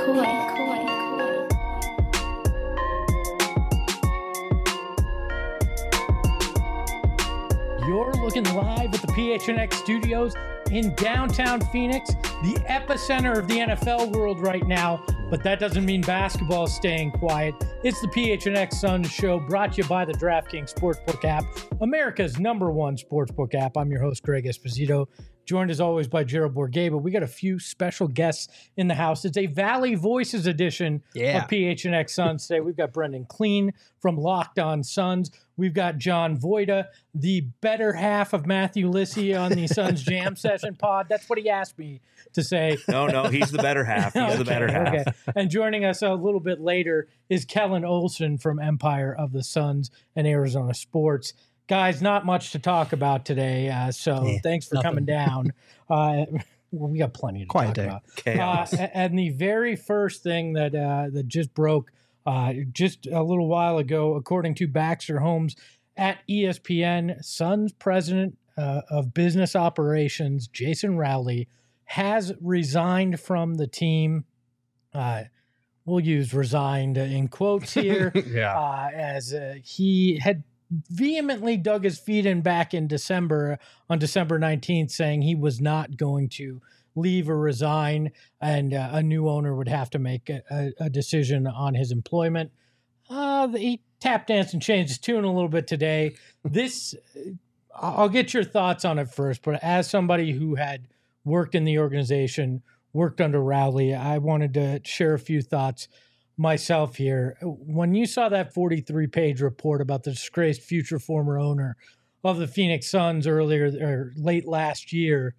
You're looking live at the PHNX studios in downtown Phoenix, the epicenter of the NFL world right now. But that doesn't mean basketball is staying quiet. It's the PHNX Suns show, brought to you by the DraftKings Sportsbook app, America's #1 sportsbook app. I'm your host, Greg Esposito, joined as always by Gerald Bourguet. But we got a few special guests in the house. It's a Valley Voices edition of PHNX Suns today. We've got Brendan Clean from Locked On Suns. We've got John Voida, the better half of Matthew Lissy on the Suns Jam Session pod. That's what he asked me to say. No, he's the better half. He's the better half. Okay. And joining us a little bit later is Kellen Olson from Empire of the Suns and Arizona Sports. Guys, not much to talk about today, thanks for coming down. We got plenty to talk about. Chaos. And the very first thing that just broke just a little while ago, according to Baxter Holmes at ESPN, Suns president of business operations, Jason Rowley, has resigned from the team. We'll use resigned in quotes here, as he had vehemently dug his feet in back in December, on December 19th, saying he was not going to leave or resign, and a new owner would have to make a decision on his employment. He tap danced and changed his tune a little bit today. I'll get your thoughts on it first, but as somebody who had worked in the organization, worked under Rowley, I wanted to share a few thoughts myself here. When you saw that 43-page report about the disgraced future former owner of the Phoenix Suns late last year,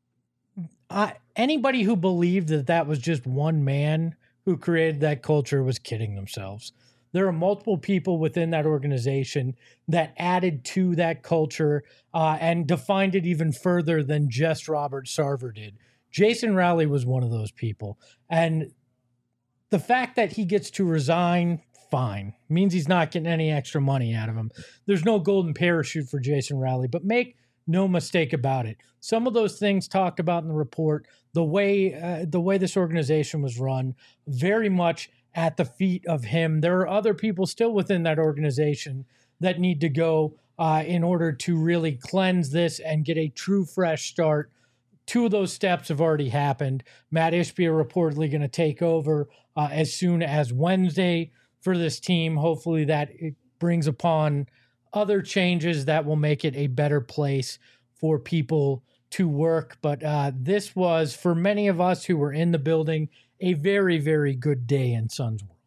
anybody who believed that was just one man who created that culture was kidding themselves. There are multiple people within that organization that added to that culture and defined it even further than just Robert Sarver did. Jason Rowley was one of those people. And the fact that he gets to resign, fine, means he's not getting any extra money out of him. There's no golden parachute for Jason Rowley, but make no mistake about it. Some of those things talked about in the report, the way this organization was run, very much at the feet of him. There are other people still within that organization that need to go in order to really cleanse this and get a true fresh start. Two of those steps have already happened. Matt Ishbia reportedly going to take over as soon as Wednesday for this team. Hopefully that it brings upon other changes that will make it a better place for people to work. But this was, for many of us who were in the building, a very, very good day in Suns world.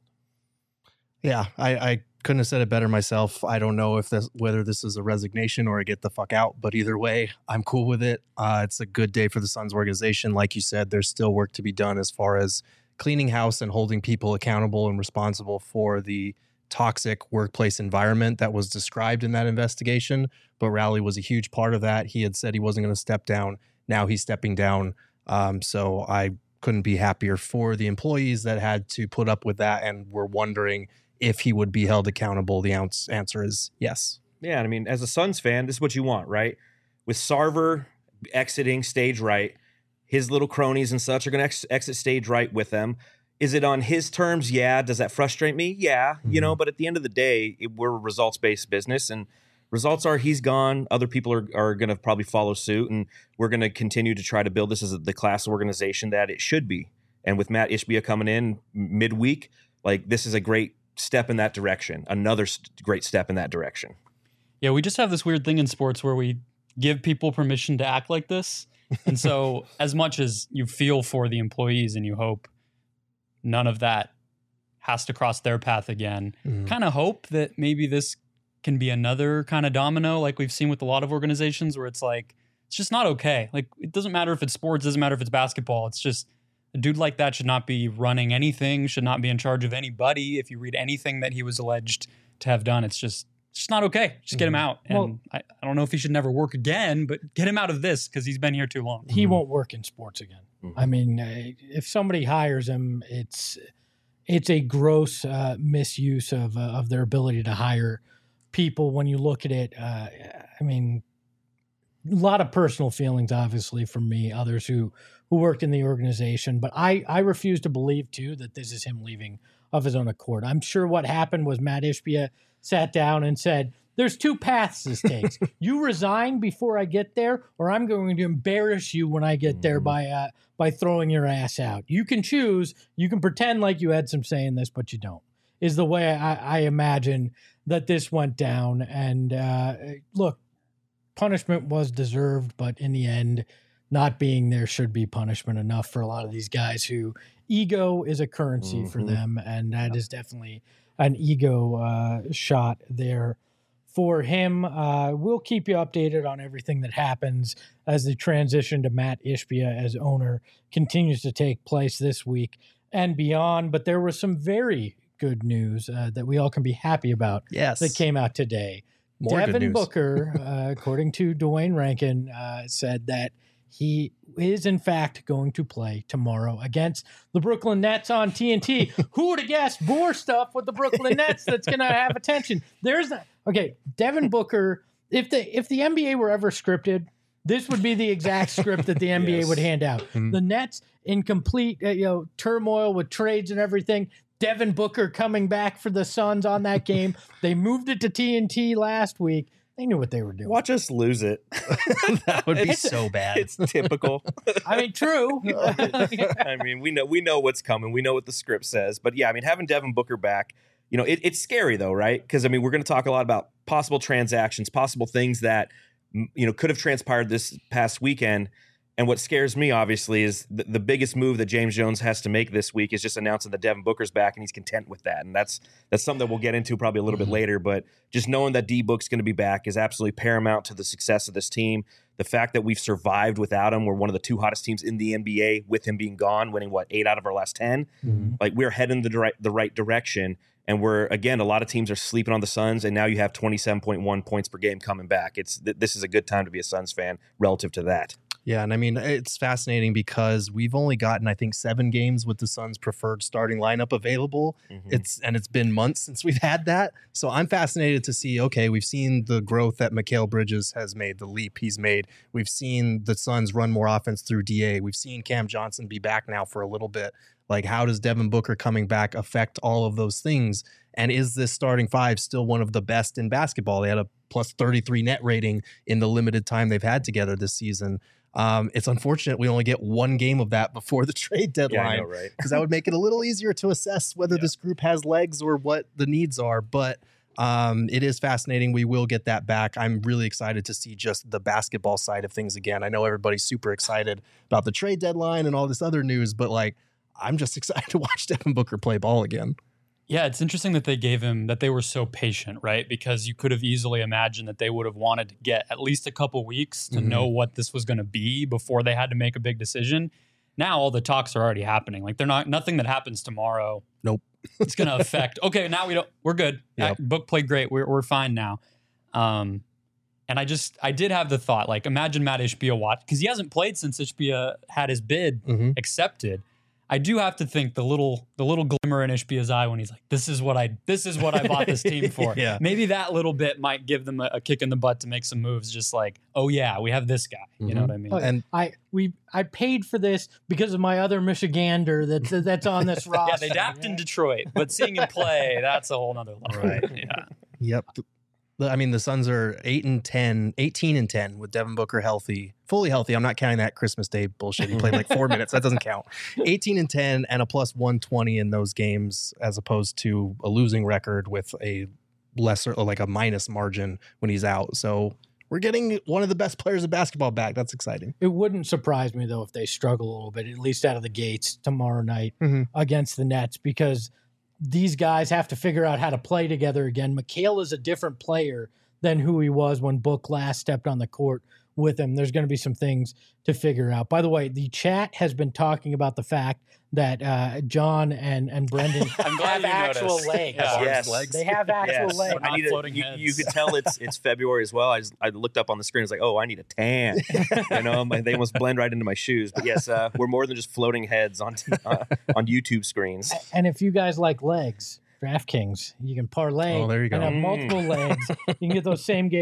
Yeah, I couldn't have said it better myself. I don't know whether this is a resignation or a get the fuck out, but either way, I'm cool with it. It's a good day for the Suns organization. Like you said, there's still work to be done as far as cleaning house and holding people accountable and responsible for the toxic workplace environment that was described in that investigation. But Rowley was a huge part of that. He had said he wasn't going to step down. Now he's stepping down. So I couldn't be happier for the employees that had to put up with that and were wondering if he would be held accountable. The answer is yes. Yeah, I mean, as a Suns fan, this is what you want, right? With Sarver exiting stage right, his little cronies and such are going to exit stage right with them. Is it on his terms? Yeah. Does that frustrate me? Yeah. Mm-hmm. But at the end of the day, we're a results-based business, and results are he's gone. Other people are going to probably follow suit, and we're going to continue to try to build this as the class organization that it should be. And with Matt Ishbia coming in midweek, this is a great step in that direction. Another great step in that direction. Yeah, we just have this weird thing in sports where we give people permission to act like this. And so as much as you feel for the employees and you hope none of that has to cross their path again, kind of hope that maybe this can be another kind of domino like we've seen with a lot of organizations where it's just not okay. It doesn't matter if it's sports, doesn't matter if it's basketball. It's just a dude like that should not be running anything, should not be in charge of anybody. If you read anything that he was alleged to have done, it's just not okay. Just get him out. And I don't know if he should never work again, but get him out of this because he's been here too long. He won't work in sports again. Mm-hmm. I mean, if somebody hires him, it's a gross misuse of their ability to hire people. When you look at it, lot of personal feelings, obviously, from me, others who worked in the organization. But I refuse to believe, too, that this is him leaving of his own accord. I'm sure what happened was Matt Ishbia sat down and said, there's two paths this takes. You resign before I get there, or I'm going to embarrass you when I get there by throwing your ass out. You can choose. You can pretend like you had some say in this, but you don't, is the way I imagine that this went down. And look, punishment was deserved, but in the end, not being there should be punishment enough for a lot of these guys who ego is a currency for them. And that is definitely an ego shot there for him. We'll keep you updated on everything that happens as the transition to Matt Ishbia as owner continues to take place this week and beyond. But there was some very good news that we all can be happy about that came out today. More good Devin news. Booker, according to Dwayne Rankin, said that he is in fact going to play tomorrow against the Brooklyn Nets on TNT. Who would have guessed more stuff with the Brooklyn Nets that's going to have attention? Okay, Devin Booker, if the NBA were ever scripted, this would be the exact script that the NBA would hand out. The Nets in complete turmoil with trades and everything. Devin Booker coming back for the Suns on that game. They moved it to TNT last week. They knew what they were doing. Watch us lose it. That would be so bad. It's typical. I mean, true. I mean, we know what's coming. We know what the script says. But yeah, I mean, having Devin Booker back, it's scary though, right? Because I mean, we're going to talk a lot about possible transactions, possible things that could have transpired this past weekend. And what scares me, obviously, is the biggest move that James Jones has to make this week is just announcing that Devin Booker's back, and he's content with that. And that's something that we'll get into probably a little bit later. But just knowing that D-Book's going to be back is absolutely paramount to the success of this team. The fact that we've survived without him, we're one of the two hottest teams in the NBA with him being gone, winning 8 out of our last 10. Like, we're heading the right direction. And a lot of teams are sleeping on the Suns, and now you have 27.1 points per game coming back. This is a good time to be a Suns fan relative to that. Yeah, and I mean, it's fascinating because we've only gotten, I think, 7 games with the Suns' preferred starting lineup available. It's been months since we've had that. So I'm fascinated to see, okay, we've seen the growth that Mikal Bridges has made, the leap he's made. We've seen the Suns run more offense through DA. We've seen Cam Johnson be back now for a little bit. Like, how does Devin Booker coming back affect all of those things? And is this starting 5 still one of the best in basketball? They had a plus 33 net rating in the limited time they've had together this season. It's unfortunate we only get 1 game of that before the trade deadline. Yeah, I know, right? Because that would make it a little easier to assess whether this group has legs or what the needs are. But it is fascinating. We will get that back. I'm really excited to see just the basketball side of things again. I know everybody's super excited about the trade deadline and all this other news, but I'm just excited to watch Devin Booker play ball again. Yeah, it's interesting that they were so patient, right? Because you could have easily imagined that they would have wanted to get at least a couple weeks to know what this was going to be before they had to make a big decision. Now all the talks are already happening. Like, nothing that happens tomorrow. Nope. It's going to affect. Okay, now we're good. Yep. Book played great. We're fine now. And I did have the thought, like, imagine Matt Ishbia because he hasn't played since Ishbia had his bid accepted. I do have to think the little glimmer in Ishbia's eye when he's like, this is what I bought this team for. Yeah. Maybe that little bit might give them a kick in the butt to make some moves, just like, oh yeah, we have this guy. You know what I mean? And I paid for this because of my other Michigander that's on this roster. Yeah, they dapped in Detroit, but seeing him play, that's a whole nother level. Right. Yeah. Yep. I mean, the Suns are 18-10 with Devin Booker fully healthy. I'm not counting that Christmas Day bullshit. He played 4 minutes. That doesn't count. 18-10 and a plus 120 in those games, as opposed to a losing record with a lesser, a minus margin when he's out. So we're getting one of the best players of basketball back. That's exciting. It wouldn't surprise me, though, if they struggle a little bit, at least out of the gates tomorrow night against the Nets, because these guys have to figure out how to play together again. Mikal is a different player than who he was when Book last stepped on the court with him. There's going to be some things to figure out. By the way, the chat has been talking about the fact that John and Brendan have actual legs. Yeah. Yes. They have actual legs. Not floating you heads. could tell it's February as well. I looked up on the screen. It's like, oh, I need a tan. They almost blend right into my shoes. But yes, we're more than just floating heads on YouTube screens. And if you guys like legs, DraftKings, you can parlay Oh, there you go. and have multiple legs. You can get those same game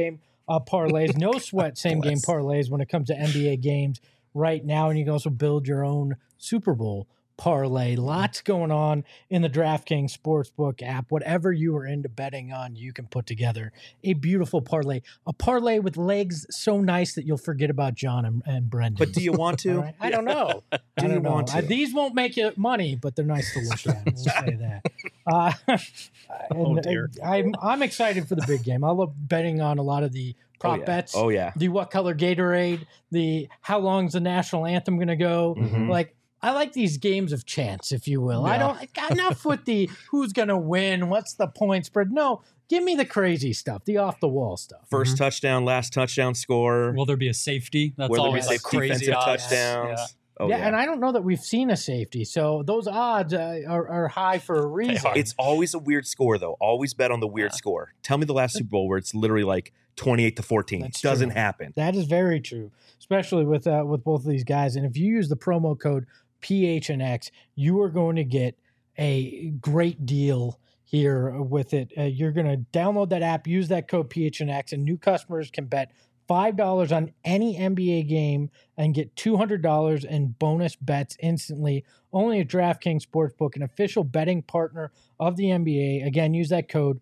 parlays. No sweat same game parlays when it comes to NBA games right now. And you can also build your own Super Bowl parlay. Lots going on in the DraftKings Sportsbook app. Whatever you are into betting on, you can put together a beautiful parlay. A parlay with legs so nice that you'll forget about John and Brendan. But do you want to? Right? I don't know. Do you want to? These won't make you money, but they're nice to look at. We'll say that. Dear. I'm excited for the big game. I love betting on a lot of the prop bets. Oh, yeah. The what color Gatorade, the how long's the national anthem going to go. Like, I like these games of chance, if you will. Yeah. Enough with the who's going to win, what's the point spread. No, give me the crazy stuff, the off the wall stuff. First touchdown, last touchdown score. Will there be a safety? That's Will there be always like crazy defensive odds. touchdowns? Yeah. Oh, yeah, and I don't know that we've seen a safety, so those odds are high for a reason. It's always a weird score, though. Always bet on the weird score. Tell me the last Super Bowl where it's literally like 28-14. That's Doesn't true. happen. That is very true, especially with both of these guys. And if you use the promo code PHNX, you are going to get a great deal here with it. You're going to download that app, use that code PHNX, and new customers can bet $5 on any NBA game and get $200 in bonus bets instantly. Only at DraftKings Sportsbook, an official betting partner of the NBA. Again, use that code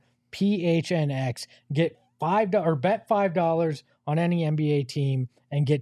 PHNX. Get bet $5 on any NBA team and get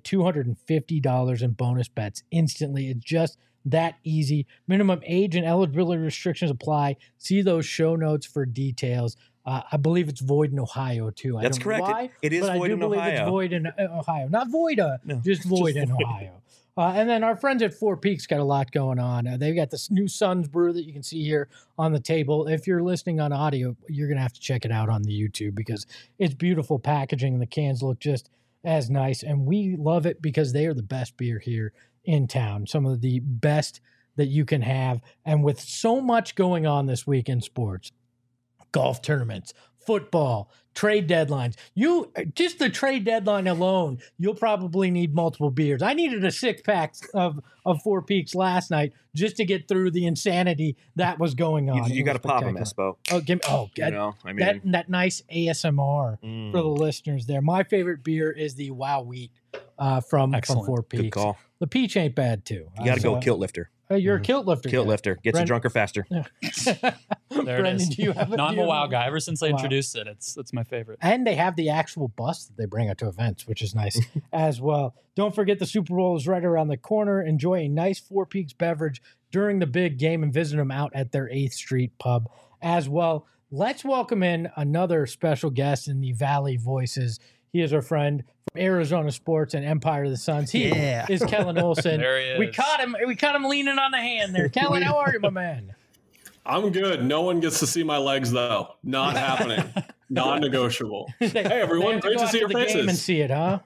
$250 in bonus bets instantly. It's just that easy. Minimum age and eligibility restrictions apply. See those show notes for details. I believe it's void in Ohio, too. That's correct. Why, it is but void I do in believe Ohio. It's void in Ohio. Not void, No, just void in void. Ohio. And then our friends at Four Peaks got a lot going on. They've got this new Suns brew that you can see here on the table. If you're listening on audio, you're going to have to check it out on the YouTube because it's beautiful packaging and the cans look just as nice. And we love it because they are the best beer here in town. Some of the best that you can have. And with so much going on this week in sports, golf tournaments, football, trade deadlines. Just the trade deadline alone, you'll probably need multiple beers. I needed a 6-pack of Four Peaks last night just to get through the insanity that was going on. You got to pop them, Espo. Oh, give me! You know, I mean, that nice ASMR for the listeners there. My favorite beer is the Wow Wheat from Four Peaks. Good call. The peach ain't bad too. You got to go kilt lifter. You're a kilt lifter. Kilt guy. lifter. Gets you drunker faster. There Brendan, it is. do you have No, I'm do you a have WoW guy. Ever since they Wow. introduced it, it's my favorite. And they have the actual bus that they bring out to events, which is nice as well. Don't forget the Super Bowl is right around the corner. Enjoy a nice Four Peaks beverage during the big game and visit them out at their 8th Street pub as well. Let's welcome in another special guest in the Valley Voices. He is our friend from Arizona Sports and Empire of the Suns. He is Kellen Olson. There he is. We caught him leaning on the hand there. Kellen, how are you, my man? I'm good. No one gets to see my legs, though. Not happening. Non-negotiable. Hey, everyone. Great to see your the game and faces. see it, huh?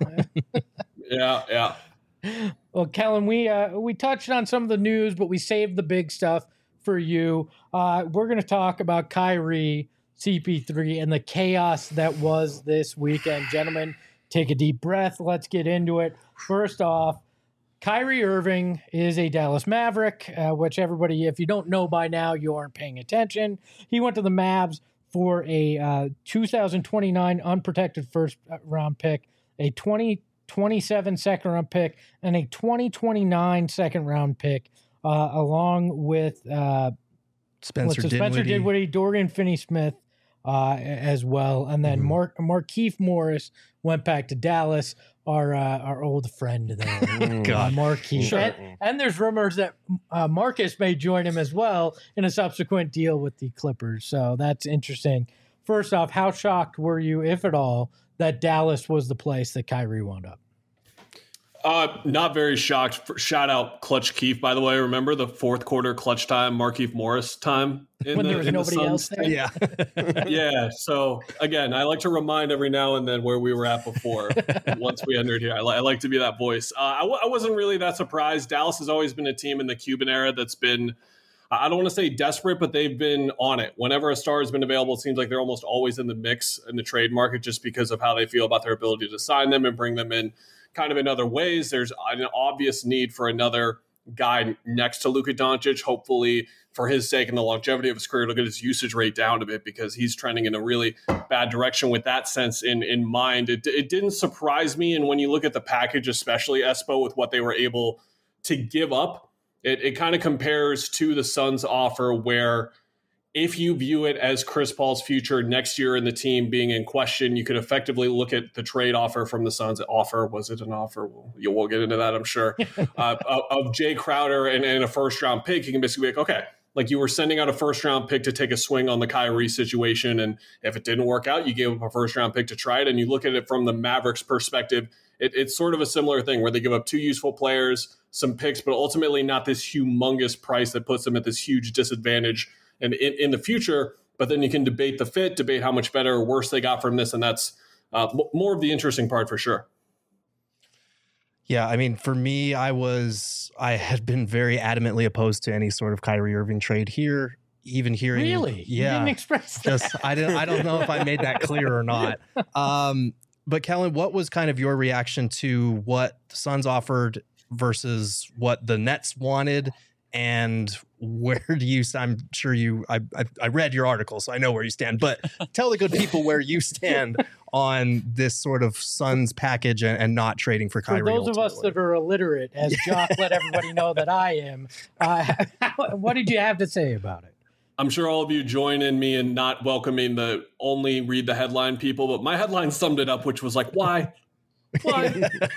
Yeah. Well, Kellen, we touched on some of the news, but we saved the big stuff for you. We're going to talk about Kyrie, CP3, and the chaos that was this weekend. Gentlemen, take a deep breath. Let's get into it. First off, Kyrie Irving is a Dallas Maverick, which everybody, if you don't know by now, you aren't paying attention. He went to the Mavs for a 2029 unprotected first-round pick, a 2027 second-round pick, and a 2029 second-round pick, along with Spencer Spencer Dinwiddie, Dorian Finney-Smith as well. And then Markieff Morris went back to Dallas, our old friend there. God. Markieff. Sure. And there's rumors that Marcus may join him as well in a subsequent deal with the Clippers. So that's interesting. First off, how shocked were you, if at all, that Dallas was the place that Kyrie wound up? Not very shocked. Shout out Clutch Keefe, by the way. Remember the fourth quarter clutch time, Markieff Morris time? When there was nobody else there? Yeah. Yeah. So, again, I like to remind every now and then where we were at before once we entered here. I like to be that voice. I wasn't really that surprised. Dallas has always been a team in the Cuban era that's been, I don't want to say desperate, but they've been on it. Whenever a star has been available, it seems like they're almost always in the mix in the trade market just because of how they feel about their ability to sign them and bring them in kind of in other ways. There's an obvious need for another guy next to Luka Doncic. Hopefully, for his sake and the longevity of his career, to get his usage rate down a bit because he's trending in a really bad direction with that sense in mind. It didn't surprise me. And when you look at the package, especially Espo, with what they were able to give up, it kind of compares to the Suns offer where if you view it as Chris Paul's future next year in the team being in question, you could effectively look at the trade offer from the Suns. Was it an offer? We'll get into that, I'm sure. Of Jay Crowder and a first-round pick. You can basically be like, okay, like you were sending out a first-round pick to take a swing on the Kyrie situation, and if it didn't work out, you gave up a first-round pick to try it, and you look at it from the Mavericks' perspective, it's sort of a similar thing where they give up 2 useful players, some picks, but ultimately not this humongous price that puts them at this huge disadvantage and in the future, but then you can debate the fit, debate how much better or worse they got from this, and that's more of the interesting part for sure. Yeah, I mean, for me, I had been very adamantly opposed to any sort of Kyrie Irving trade here. Even hearing, really, yeah, you didn't express that. I don't know if I made that clear or not. But Kellen, what was kind of your reaction to what the Suns offered versus what the Nets wanted? And where do you, I'm sure I read your article, so I know where you stand, but tell the good people where you stand on this sort of Suns package and not trading for Kyrie. For those of us that are illiterate, as Jock let everybody know that I am, what did you have to say about it? I'm sure all of you join in me in not welcoming the only read the headline people, but my headline summed it up, which was like, why? Why?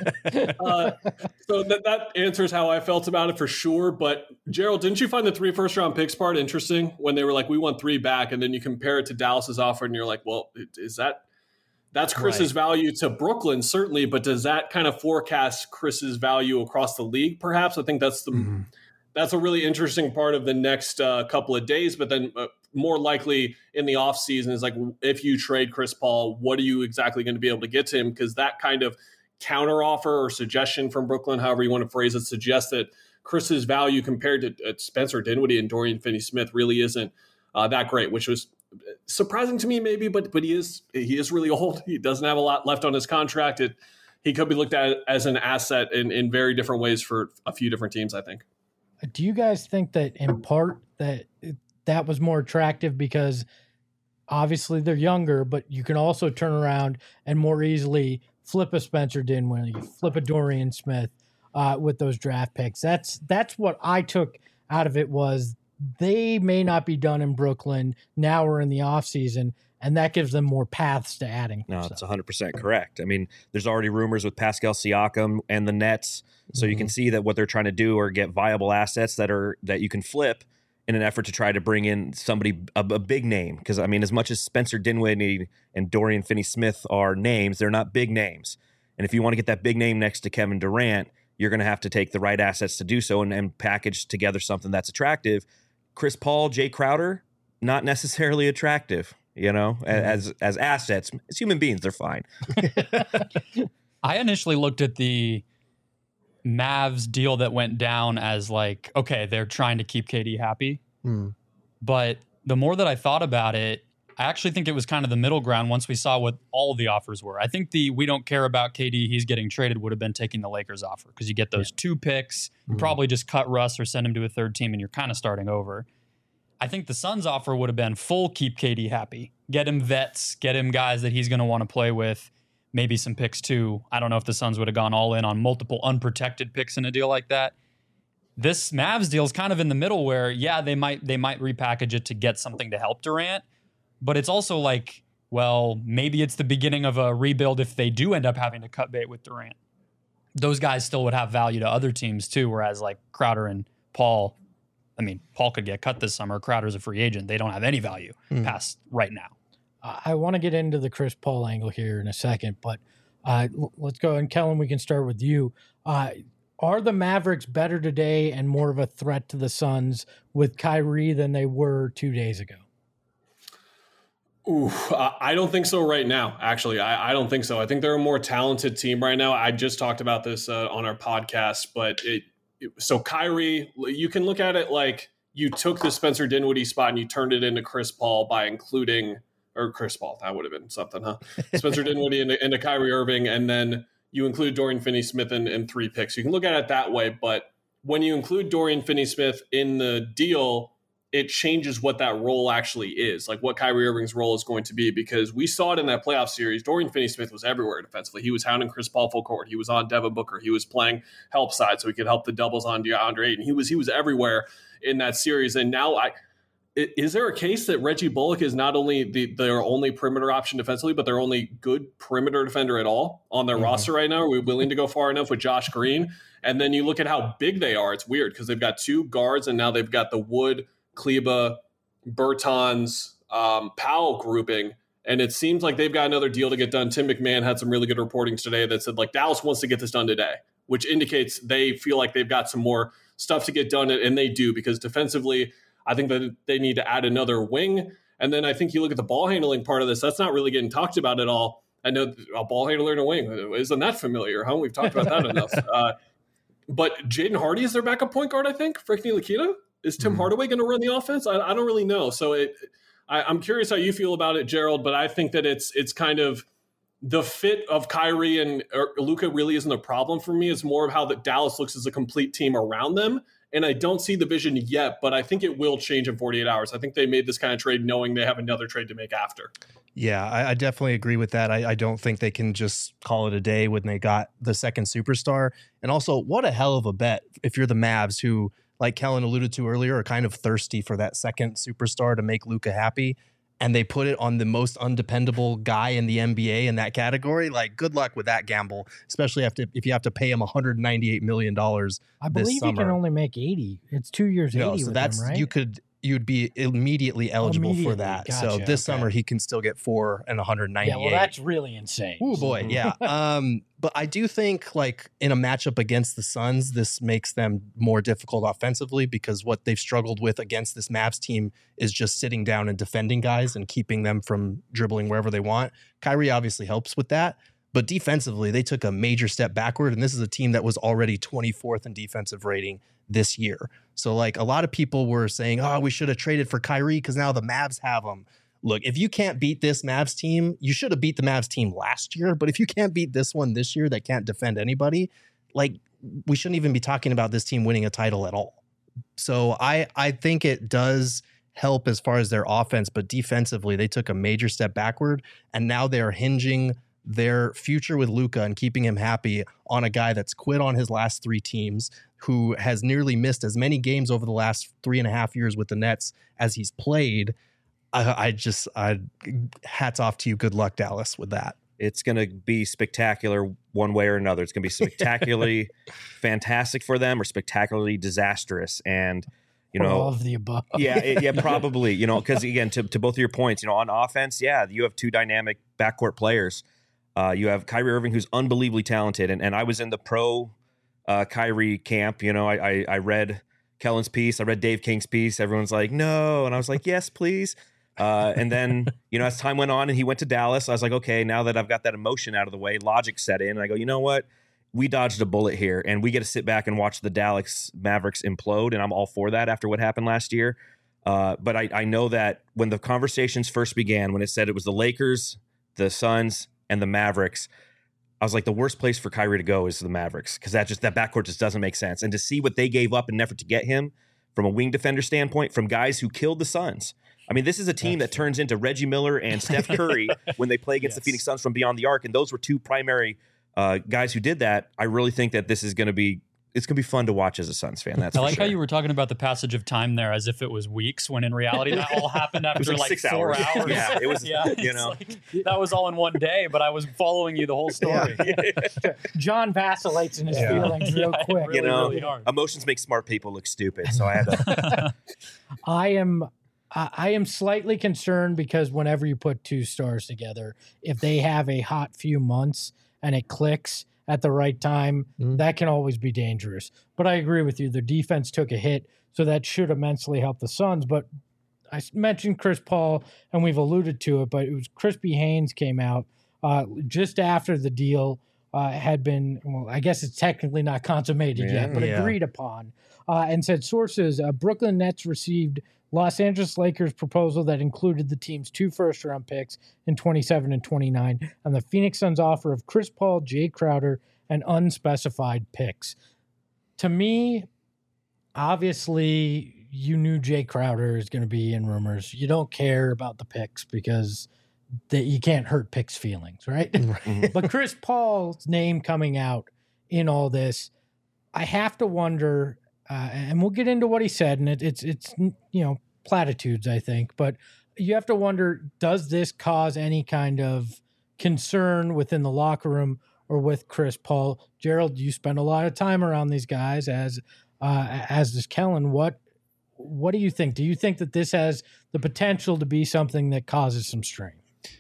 So that answers how I felt about it for sure. But Gerald, didn't you find the 3 first-round picks part interesting when they were like, we want 3 back, and then you compare it to Dallas's offer, and you're like, well, that's Chris's value to Brooklyn, certainly, but does that kind of forecast Chris's value across the league? Perhaps I think that's that's a really interesting part of the next couple of days. But then more likely in the offseason is like, if you trade Chris Paul, what are you exactly going to be able to get to him? Because that kind of counteroffer or suggestion from Brooklyn, however you want to phrase it, suggests that Chris's value compared to Spencer Dinwiddie and Dorian Finney-Smith really isn't that great, which was surprising to me maybe, but he is really old. He doesn't have a lot left on his contract. He could be looked at as an asset in very different ways for a few different teams, I think. Do you guys think that in part that was more attractive because obviously they're younger, but you can also turn around and more easily flip a Spencer Dinwiddie, flip a Dorian Smith with those draft picks? That's what I took out of it, was they may not be done in Brooklyn. Now we're in the offseason, and that gives them more paths to adding. No, it's 100% correct. I mean, there's already rumors with Pascal Siakam and the Nets, so you can see that what they're trying to do are get viable assets that you can flip in an effort to try to bring in somebody, a big name. Because, I mean, as much as Spencer Dinwiddie and Dorian Finney-Smith are names, they're not big names. And if you want to get that big name next to Kevin Durant, you're going to have to take the right assets to do so and package together something that's attractive. Chris Paul, Jay Crowder, not necessarily attractive, as assets. As human beings, they're fine. I initially looked at the Mavs deal that went down as like, okay, they're trying to keep KD happy. But the more that I thought about it, I actually think it was kind of the middle ground once we saw what all of the offers were. I think we don't care about KD, he's getting traded would have been taking the Lakers offer because you get those 2 picks, you probably just cut Russ or send him to a third team and you're kind of starting over. I think the Suns offer would have been full keep KD happy. Get him vets, get him guys that he's going to want to play with. Maybe some picks too. I don't know if the Suns would have gone all in on multiple unprotected picks in a deal like that. This Mavs deal is kind of in the middle where, yeah, they might repackage it to get something to help Durant, but it's also like, well, maybe it's the beginning of a rebuild if they do end up having to cut bait with Durant. Those guys still would have value to other teams too, whereas like Crowder and Paul, I mean, Paul could get cut this summer. Crowder's a free agent. They don't have any value past right now. I want to get into the Chris Paul angle here in a second, but let's go. And Kellen, we can start with you. Are the Mavericks better today and more of a threat to the Suns with Kyrie than they were 2 days ago? I don't think so right now, actually. I don't think so. I think they're a more talented team right now. I just talked about this on our podcast, but so Kyrie, you can look at it like you took the Spencer Dinwiddie spot and you turned it into Chris Paul by including – or Chris Paul, that would have been something, huh? Spencer Dinwiddie into Kyrie Irving, and then you include Dorian Finney-Smith in 3 picks. You can look at it that way, but when you include Dorian Finney-Smith in the deal, it changes what that role actually is, like what Kyrie Irving's role is going to be, because we saw it in that playoff series. Dorian Finney-Smith was everywhere defensively. He was hounding Chris Paul full court. He was on Devin Booker. He was playing help side so he could help the doubles on DeAndre Ayton. He was everywhere in that series. And now is there a case that Reggie Bullock is not only their only perimeter option defensively, but their only good perimeter defender at all on their roster right now? Are we willing to go far enough with Josh Green? And then you look at how big they are. It's weird because they've got 2 guards, and now they've got the Wood, Kleba, Bertans, Powell grouping. And it seems like they've got another deal to get done. Tim McMahon had some really good reporting today that said, like, Dallas wants to get this done today, which indicates they feel like they've got some more stuff to get done. And they do, because defensively, I think that they need to add another wing. And then I think you look at the ball handling part of this, that's not really getting talked about at all. I know a ball handler and a wing, isn't that familiar, huh? We've talked about that enough. But Jaden Hardy is their backup point guard, I think, for Ntilikina. Is Tim Hardaway going to run the offense? I don't really know. So I'm curious how you feel about it, Gerald, but I think that it's kind of the fit of Kyrie and Luka really isn't a problem for me. It's more of how that Dallas looks as a complete team around them. And I don't see the vision yet, but I think it will change in 48 hours. I think they made this kind of trade knowing they have another trade to make after. Yeah, I definitely agree with that. I don't think they can just call it a day when they got the second superstar. And also, what a hell of a bet if you're the Mavs, who, like Kellen alluded to earlier, are kind of thirsty for that second superstar to make Luka happy. And they put it on the most undependable guy in the NBA in that category. Like, good luck with that gamble, especially if you have to pay him $198 million. I believe he can only make 80. It's 2 years, 80 so with that's him, right? You'd be immediately eligible for that. Gotcha, so this summer he can still get 4 and 198. Yeah, well, that's really insane. Oh boy, yeah. But I do think, like, in a matchup against the Suns, this makes them more difficult offensively, because what they've struggled with against this Mavs team is just sitting down and defending guys and keeping them from dribbling wherever they want. Kyrie obviously helps with that. But defensively, they took a major step backward, and this is a team that was already 24th in defensive rating this year. So, like, a lot of people were saying, oh, we should have traded for Kyrie because now the Mavs have him. Look, if you can't beat this Mavs team, you should have beat the Mavs team last year. But if you can't beat this one this year that can't defend anybody, like, we shouldn't even be talking about this team winning a title at all. So I think it does help as far as their offense, but defensively, they took a major step backward, and now they're hinging their future with Luka and keeping him happy on a guy that's quit on his last 3 teams, who has nearly missed as many games over the last 3.5 years with the Nets as he's played. I hats off to you. Good luck, Dallas, with that. It's going to be spectacular one way or another. It's going to be spectacularly fantastic for them, or spectacularly disastrous. And, you know, all of the above. Yeah, probably, you know, because again, to both of your points, you know, on offense, yeah, you have 2 dynamic backcourt players. You have Kyrie Irving, who's unbelievably talented. And I was in the pro Kyrie camp. You know, I read Kellen's piece. I read Dave King's piece. Everyone's like, no. And I was like, yes, please. And then, you know, as time went on and he went to Dallas, I was like, okay, now that I've got that emotion out of the way, logic set in. And I go, you know what? We dodged a bullet here, and we get to sit back and watch the Dallas Mavericks implode. And I'm all for that after what happened last year. But I know that when the conversations first began, when it said it was the Lakers, the Suns, and the Mavericks, I was like, the worst place for Kyrie to go is the Mavericks, because that backcourt just doesn't make sense. And to see what they gave up in an effort to get him from a wing defender standpoint, from guys who killed the Suns. I mean, this is a team that turns into Reggie Miller and Steph Curry when they play against the Phoenix Suns from beyond the arc. And those were 2 primary guys who did that. I really think that this is going to be fun to watch as a Suns fan. That's I like how you were talking about the passage of time there as if it was weeks, when in reality that all happened after like 4 hours. Yeah, it was. Yeah, you know, like, that was all in one day, but I was following you the whole story. John vacillates in his feelings real quick. Really, you know, really hard. Emotions make smart people look stupid. So I had to. I am slightly concerned, because whenever you put 2 stars together, if they have a hot few months and it clicks at the right time, that can always be dangerous. But I agree with you. Their defense took a hit, so that should immensely help the Suns. But I mentioned Chris Paul, and we've alluded to it, but it was Crispy Haynes came out just after the deal had been, well, I guess it's technically not consummated yet, but agreed upon, and said sources, Brooklyn Nets received Los Angeles Lakers proposal that included the team's 2 first-round picks in 27 and 29, and the Phoenix Suns offer of Chris Paul, Jay Crowder, and unspecified picks. To me, obviously you knew Jay Crowder is going to be in rumors. You don't care about the picks because you can't hurt picks' feelings, right? But Chris Paul's name coming out in all this, I have to wonder, and we'll get into what he said, and it's platitudes, I think, but you have to wonder, does this cause any kind of concern within the locker room or with Chris Paul? Gerald, you spend a lot of time around these guys, as does Kellen. What do you think? Do you think that this has the potential to be something that causes some strain?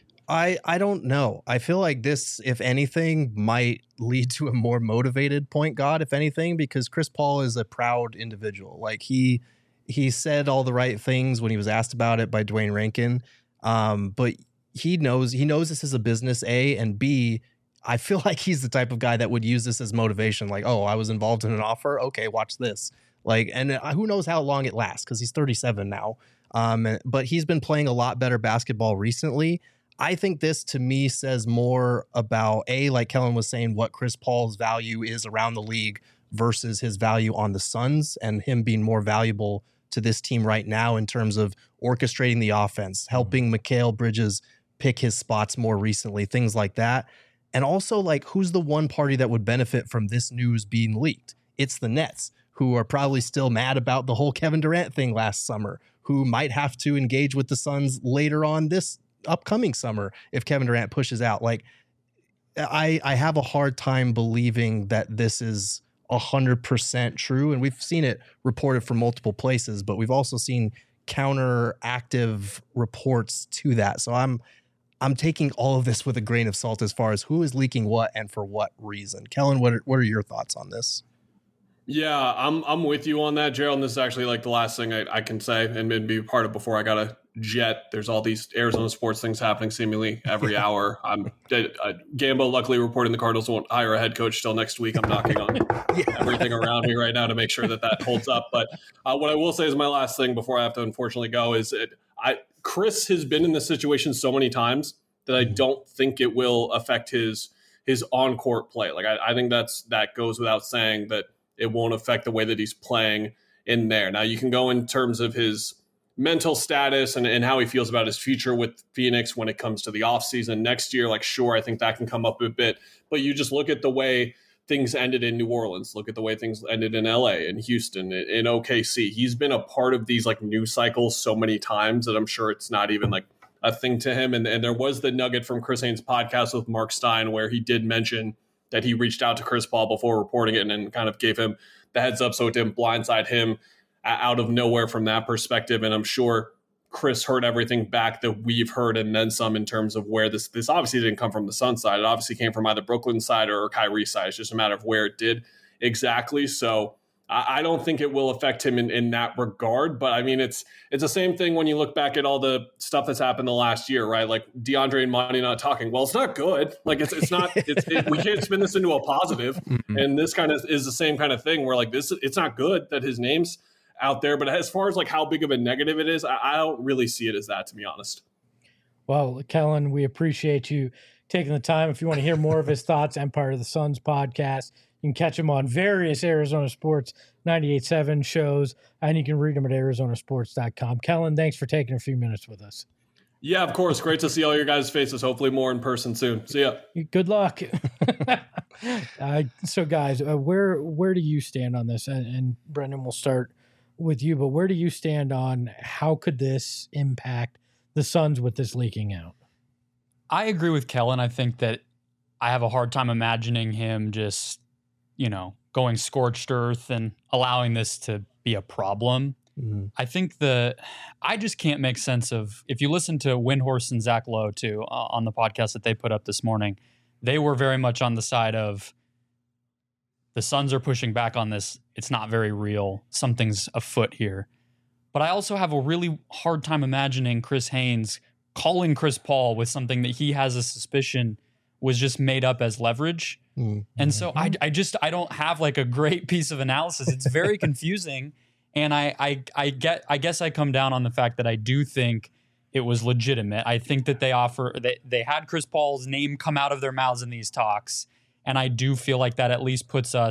I don't know. I feel like this, if anything, might lead to a more motivated point guard, if anything, because Chris Paul is a proud individual. Like he said all the right things when he was asked about it by Dwayne Rankin. But he knows this is a business, A, and B, I feel like he's the type of guy that would use this as motivation. Like, oh, I was involved in an offer. Okay, watch this. Like, and who knows how long it lasts, because he's 37 now. But he's been playing a lot better basketball recently. I think this, to me, says more about, A, like Kellen was saying, what Chris Paul's value is around the league versus his value on the Suns, and him being more valuable to this team right now in terms of orchestrating the offense, helping Mikal Bridges pick his spots more recently, things like that. And also, like, who's the one party that would benefit from this news being leaked? It's the Nets, who are probably still mad about the whole Kevin Durant thing last summer, who might have to engage with the Suns later on this upcoming summer if Kevin Durant pushes out. Like, I have a hard time believing that this is 100% true, and we've seen it reported from multiple places, but we've also seen counteractive reports to that. So I'm taking all of this with a grain of salt as far as who is leaking what and for what reason. Kellen, what are your thoughts on this? Yeah, I'm with you on that, Gerald. And this is actually like the last thing I can say and maybe be part of before I got to jet. There's all these Arizona sports things happening seemingly every hour. Gambo luckily reporting the Cardinals won't hire a head coach till next week. I'm knocking on everything around me right now to make sure that holds up. But what I will say is my last thing before I have to unfortunately go is Chris has been in this situation so many times that I don't think it will affect his on-court play. Like I think that goes without saying that it won't affect the way that he's playing in there. Now, you can go in terms of his mental status and how he feels about his future with Phoenix when it comes to the offseason next year. Like, sure, I think that can come up a bit. But you just look at the way things ended in New Orleans. Look at the way things ended in LA, in Houston, in OKC. He's been a part of these like news cycles so many times that I'm sure it's not even like a thing to him. And there was the nugget from Chris Haynes' podcast with Mark Stein where he did mention that he reached out to Chris Paul before reporting it and kind of gave him the heads up so it didn't blindside him out of nowhere from that perspective. And I'm sure Chris heard everything back that we've heard and then some in terms of where this obviously didn't come from the Suns side. It obviously came from either Brooklyn side or Kyrie side. It's just a matter of where it did exactly. So I don't think it will affect him in that regard. But I mean, it's the same thing when you look back at all the stuff that's happened the last year, right? Like DeAndre and Monty not talking. Well, it's not good. Like it's not. We can't spin this into a positive. Mm-hmm. And this kind of is the same kind of thing where like this, it's not good that his name's out there. But as far as like how big of a negative it is, I don't really see it as that, to be honest. Well, Kellen, we appreciate you taking the time. If you want to hear more of his thoughts, Empire of the Suns podcast, you can catch him on various Arizona Sports 98.7 shows, and you can read them at arizonasports.com. Kellen, thanks for taking a few minutes with us. Yeah, of course. Great to see all your guys' faces. Hopefully more in person soon. See ya. Good luck. So, guys, where do you stand on this? And Brendan, we'll start with you, but where do you stand on how could this impact the Suns with this leaking out? I agree with Kellen. I think that I have a hard time imagining him just, going scorched earth and allowing this to be a problem. Mm-hmm. I think I just can't make sense of, if you listen to Windhorst and Zach Lowe too, on the podcast that they put up this morning, they were very much on the side of the Suns are pushing back on this. It's not very real. Something's afoot here. But I also have a really hard time imagining Chris Haynes calling Chris Paul with something that he has a suspicion was just made up as leverage. Mm-hmm. And so I don't have like a great piece of analysis. It's very confusing. And I guess I come down on the fact that I do think it was legitimate. I think that they had Chris Paul's name come out of their mouths in these talks. And I do feel like that at least puts us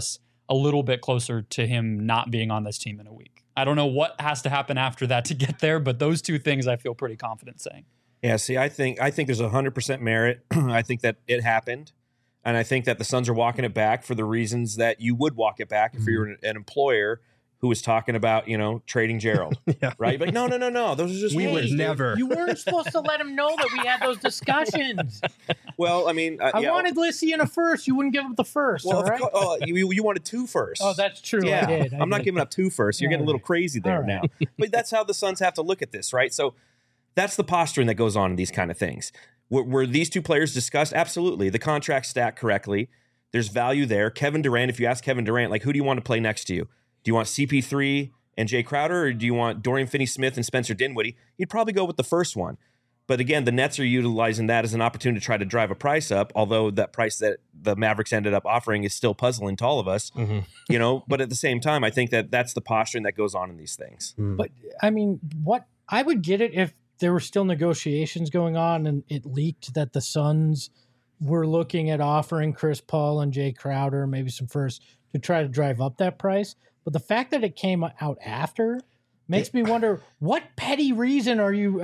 a little bit closer to him not being on this team in a week. I don't know what has to happen after that to get there, but those two things I feel pretty confident saying. Yeah, see, I think there's 100% merit. I think that it happened, and I think that the Suns are walking it back for the reasons that you would walk it back if you're an employer who was talking about, trading Gerald, right? But no. Those are just We rumors, would dude. never. You weren't supposed to let him know that we had those discussions. Well, I mean, I wanted Lissy in a first. You wouldn't give up the first. Well, all right? you wanted 2 firsts. Oh, that's true. Yeah, I did. I'm not giving up 2 firsts. You're getting a little crazy there All now. But that's how the Suns have to look at this, right? So that's the posturing that goes on in these kind of things. Were these 2 players discussed? Absolutely. The contract stacked correctly. There's value there. Kevin Durant, if you ask Kevin Durant, like, who do you want to play next to you? Do you want CP3 and Jay Crowder, or do you want Dorian Finney-Smith and Spencer Dinwiddie? He'd probably go with the first one. But again, the Nets are utilizing that as an opportunity to try to drive a price up, although that price that the Mavericks ended up offering is still puzzling to all of us. But at the same time, I think that that's the posturing that goes on in these things. But I mean, I would get it if there were still negotiations going on and it leaked that the Suns were looking at offering Chris Paul and Jay Crowder, maybe some first, to try to drive up that price. But the fact that it came out after makes me wonder, what petty reason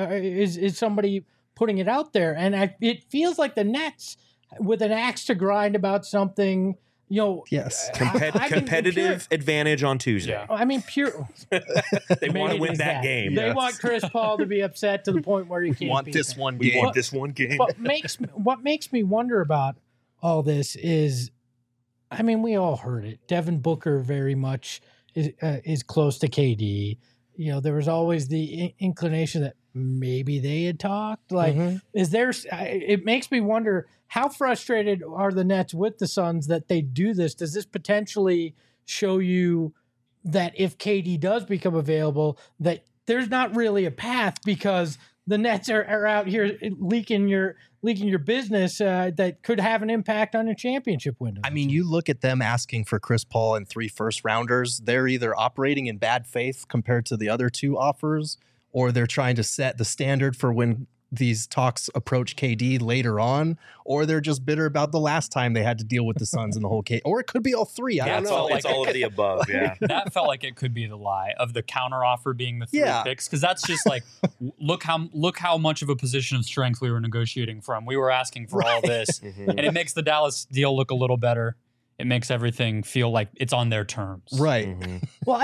is somebody putting it out there? And it feels like the Nets with an axe to grind about something. Yes. Competitive advantage on Tuesday. Yeah. I mean, pure. They want to win that game. They want Chris Paul to be upset to the point where he can't Want beat this them. one We game. want this one game. What makes me wonder about all this is, I mean, we all heard it. Devin Booker very much is close to KD. There was always the inclination that maybe they had talked. Like, is there? It makes me wonder, how frustrated are the Nets with the Suns that they do this? Does this potentially show you that if KD does become available, that there's not really a path because the Nets are out here leaking your business that could have an impact on your championship window? I mean, you look at them asking for Chris Paul and 3 first-rounders. They're either operating in bad faith compared to the other 2 offers, or they're trying to set the standard for when these talks approach KD later on, or they're just bitter about the last time they had to deal with the Suns and the whole case. Or it could be all 3. I don't know. It's all of the above, yeah. That felt like it could be the lie of the counteroffer being the 3 picks, because that's just like, look how much of a position of strength we were negotiating from. We were asking for all this, and it makes the Dallas deal look a little better. It makes everything feel like it's on their terms. Right. Well,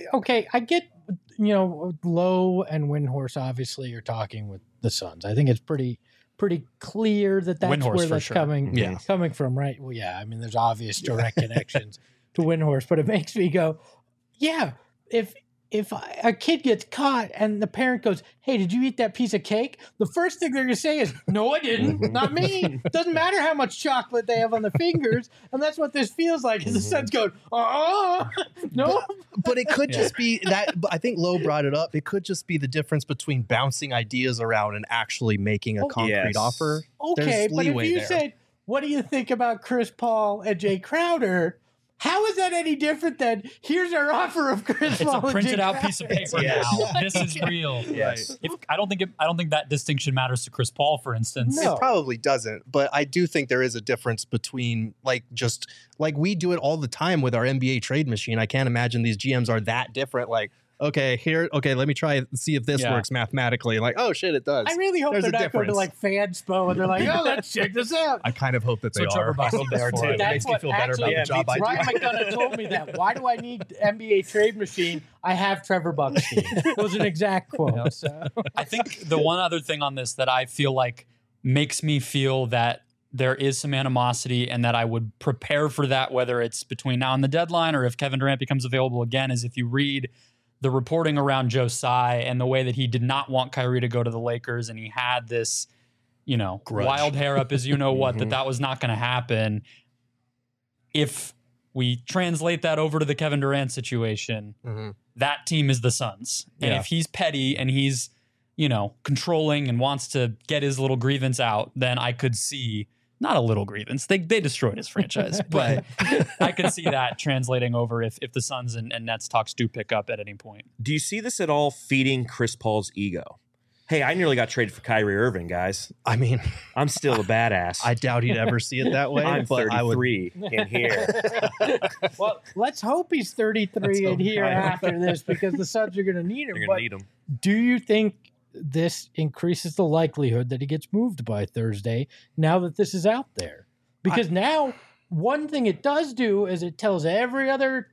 I get, Lowe and Windhorse obviously are talking with the Suns. I think it's pretty clear that that's Windhorse where for that's sure. coming from, right? Well, yeah, I mean, there's obvious direct connections to Windhorse, but it makes me go, yeah, if a kid gets caught and the parent goes, "Hey, did you eat that piece of cake?" The first thing they're going to say is, "No, I didn't. Not me." Doesn't matter how much chocolate they have on the fingers. And that's what this feels like, is the Suns going, no. But it could just be that, I think Lowe brought it up. It could just be the difference between bouncing ideas around and actually making a concrete offer. Okay, There's but if leeway you there. said, "What do you think about Chris Paul and Jay Crowder?" How is that any different than, here's our offer of Chris It's Paul a and printed Jay out Crowder? piece of paper Yes. now. This is real. Yes. I don't think that distinction matters to Chris Paul, for instance. No. It probably doesn't, but I do think there is a difference between just we do it all the time with our NBA trade machine. I can't imagine these GMs are that different. Like, okay, let me try and see if this works mathematically. Like, oh shit, it does. I really hope There's they're a not going to difference. Fanspo and they're like, "Oh, let's check this out." I kind of hope that they So Trevor are. I Buck's hope they are for too. it. It That's makes me what feel better about actually- the job I do. Ryan McDonough told me that. Why do I need NBA trade machine? I have Trevor Buckstein. Was an exact quote. So. I think the one other thing on this that I feel like makes me feel that there is some animosity and that I would prepare for that, whether it's between now and the deadline or if Kevin Durant becomes available again, is if you read the reporting around Joe Tsai and the way that he did not want Kyrie to go to the Lakers, and he had this, Grudge. wild hair up his what, that was not going to happen. If we translate that over to the Kevin Durant situation, that team is the Suns. And if he's petty and he's, controlling and wants to get his little grievance out, then I could see, not a little grievance, they destroyed his franchise, but I could see that translating over if the Suns and Nets talks do pick up at any point. Do you see this at all feeding Chris Paul's ego? Hey, I nearly got traded for Kyrie Irving, guys. I mean, I'm still a badass. I doubt he'd ever see it that way. I'm but I would. 33 in here. Well, let's hope he's 33 in here I know. after this because the Suns are going to need him. You're But gonna need him. do you think this increases the likelihood that he gets moved by Thursday now that this is out there? Because now one thing it does do is it tells every other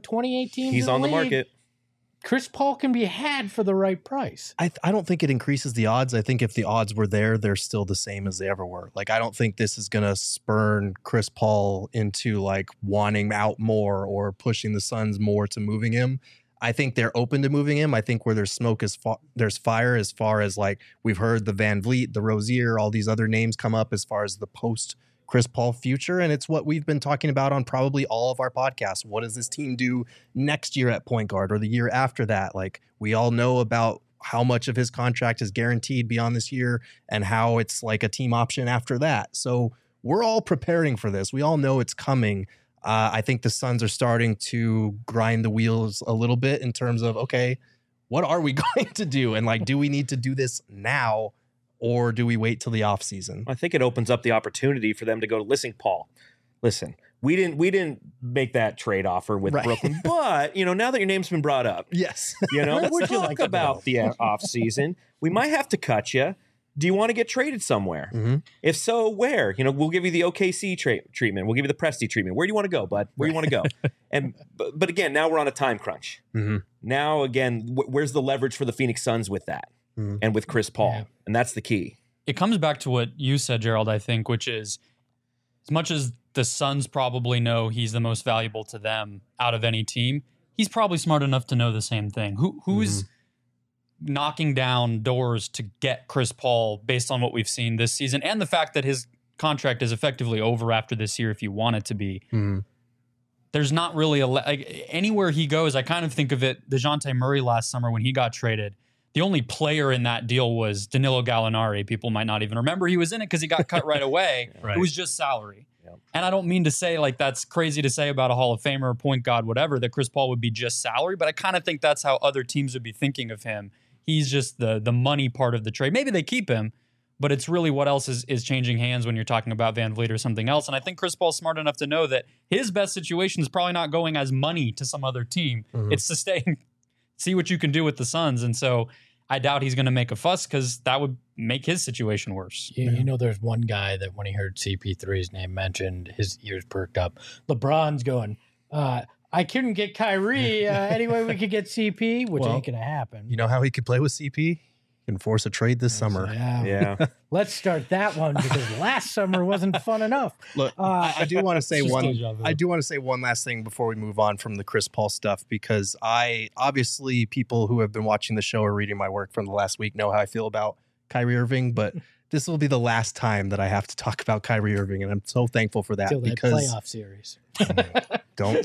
28 teams He's in on the league, market. Chris Paul can be had for the right price. I don't think it increases the odds. I think if the odds were there, they're still the same as they ever were. Like, I don't think this is going to spurn Chris Paul into like wanting out more or pushing the Suns more to moving him. I think they're open to moving him. I think where there's smoke is there's fire, as far as like we've heard the Van Vliet, the Rozier, all these other names come up as far as the post Chris Paul future. And it's what we've been talking about on probably all of our podcasts. What does this team do next year at point guard or the year after that? Like, we all know about how much of his contract is guaranteed beyond this year and how it's like a team option after that. So we're all preparing for this. We all know it's coming. I think the Suns are starting to grind the wheels a little bit in terms of, okay, what are we going to do? And like, do we need to do this now? Or do we wait till the offseason? I think it opens up the opportunity for them to go, listen, Paul, listen, we didn't make that trade offer with Right. Brooklyn, but now that your name's been brought up, Yes. let's would you talk like to about go? the offseason. We might have to cut you. Do you want to get traded somewhere? Mm-hmm. If so, where? We'll give you the OKC treatment. We'll give you the Presti treatment. Where do you want to go, bud? Where do you want to go? And but again, now we're on a time crunch. Mm-hmm. Now again, where's the leverage for the Phoenix Suns with that and with Chris Paul? Yeah. And that's the key. It comes back to what you said, Gerald, I think, which is as much as the Suns probably know he's the most valuable to them out of any team, he's probably smart enough to know the same thing. Who's knocking down doors to get Chris Paul based on what we've seen this season and the fact that his contract is effectively over after this year if you want it to be. Mm-hmm. There's not really anywhere he goes. I kind of think of it, DeJounte Murray last summer when he got traded. The only player in that deal was Danilo Gallinari. People might not even remember he was in it because he got cut right away. Right. It was just salary. Yep. And I don't mean to say like that's crazy to say about a Hall of Famer, point guard, whatever, that Chris Paul would be just salary, but I kind of think that's how other teams would be thinking of him. He's just the money part of the trade. Maybe they keep him, but it's really what else is changing hands when you're talking about Van Vliet or something else. And I think Chris Paul's smart enough to know that his best situation is probably not going as money to some other team. Mhm. It's to stay and see what you can do with the Suns. And so I doubt he's going to make a fuss because that would make his situation worse. There's one guy that when he heard CP3's name mentioned, his ears perked up. LeBron's going, I couldn't get Kyrie. Anyway, we could get CP, which Well, ain't going to happen. You know how he could play with CP? He can force a trade this summer. Yeah. Let's start that one because last summer wasn't fun enough. Look, I do want to say Just one. deja vu. I do want to say one last thing before we move on from the Chris Paul stuff, because obviously people who have been watching the show or reading my work from the last week know how I feel about Kyrie Irving, but this will be the last time that I have to talk about Kyrie Irving, and I'm so thankful for that Till that because playoff series. don't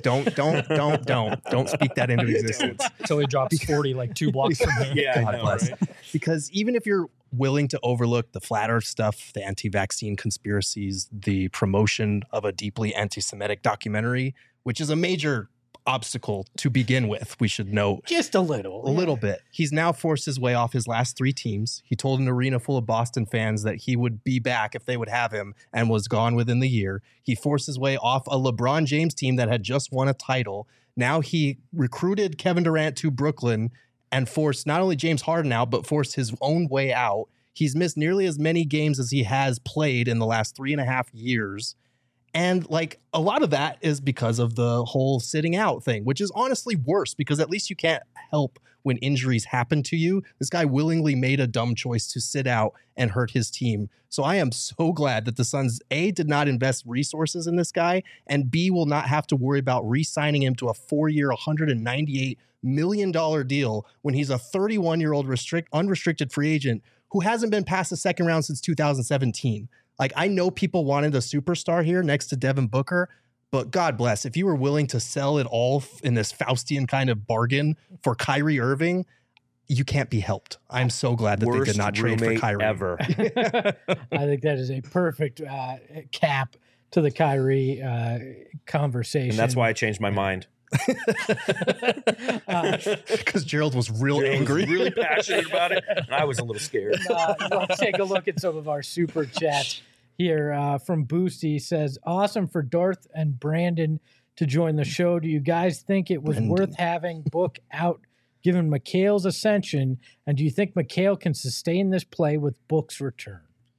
speak that into existence. Until he drops 40 like 2 blocks from here. Yeah, I God know, bless. right? Because even if you're willing to overlook the flat earth stuff, the anti-vaccine conspiracies, the promotion of a deeply anti-Semitic documentary, which is a major obstacle to begin with, we should note. Just a little. A little bit. He's now forced his way off his last 3 teams. He told an arena full of Boston fans that he would be back if they would have him and was gone within the year. He forced his way off a LeBron James team that had just won a title. Now he recruited Kevin Durant to Brooklyn and forced not only James Harden out, but forced his own way out. He's missed nearly as many games as he has played in the last 3.5 years. And like a lot of that is because of the whole sitting out thing, which is honestly worse because at least you can't help when injuries happen to you. This guy willingly made a dumb choice to sit out and hurt his team. So I am so glad that the Suns, A, did not invest resources in this guy, and B, will not have to worry about re-signing him to a 4-year, $198 million deal when he's a 31-year-old unrestricted free agent who hasn't been past the second round since 2017. Like, I know people wanted a superstar here next to Devin Booker, but God bless, if you were willing to sell it all in this Faustian kind of bargain for Kyrie Irving, you can't be helped. I'm so glad that they Worst did not trade for roommate Kyrie. ever. I think that is a perfect cap to the Kyrie conversation. And that's why I changed my mind. Because Gerald was real Gerald was angry. really passionate about it, and I was a little scared. Let's take a look at some of our super chats here. From Boosty says, awesome for Darth and Brandon to join the show. Do you guys think it was worth having Book out given McHale's ascension? And do you think McHale can sustain this play with Book's return?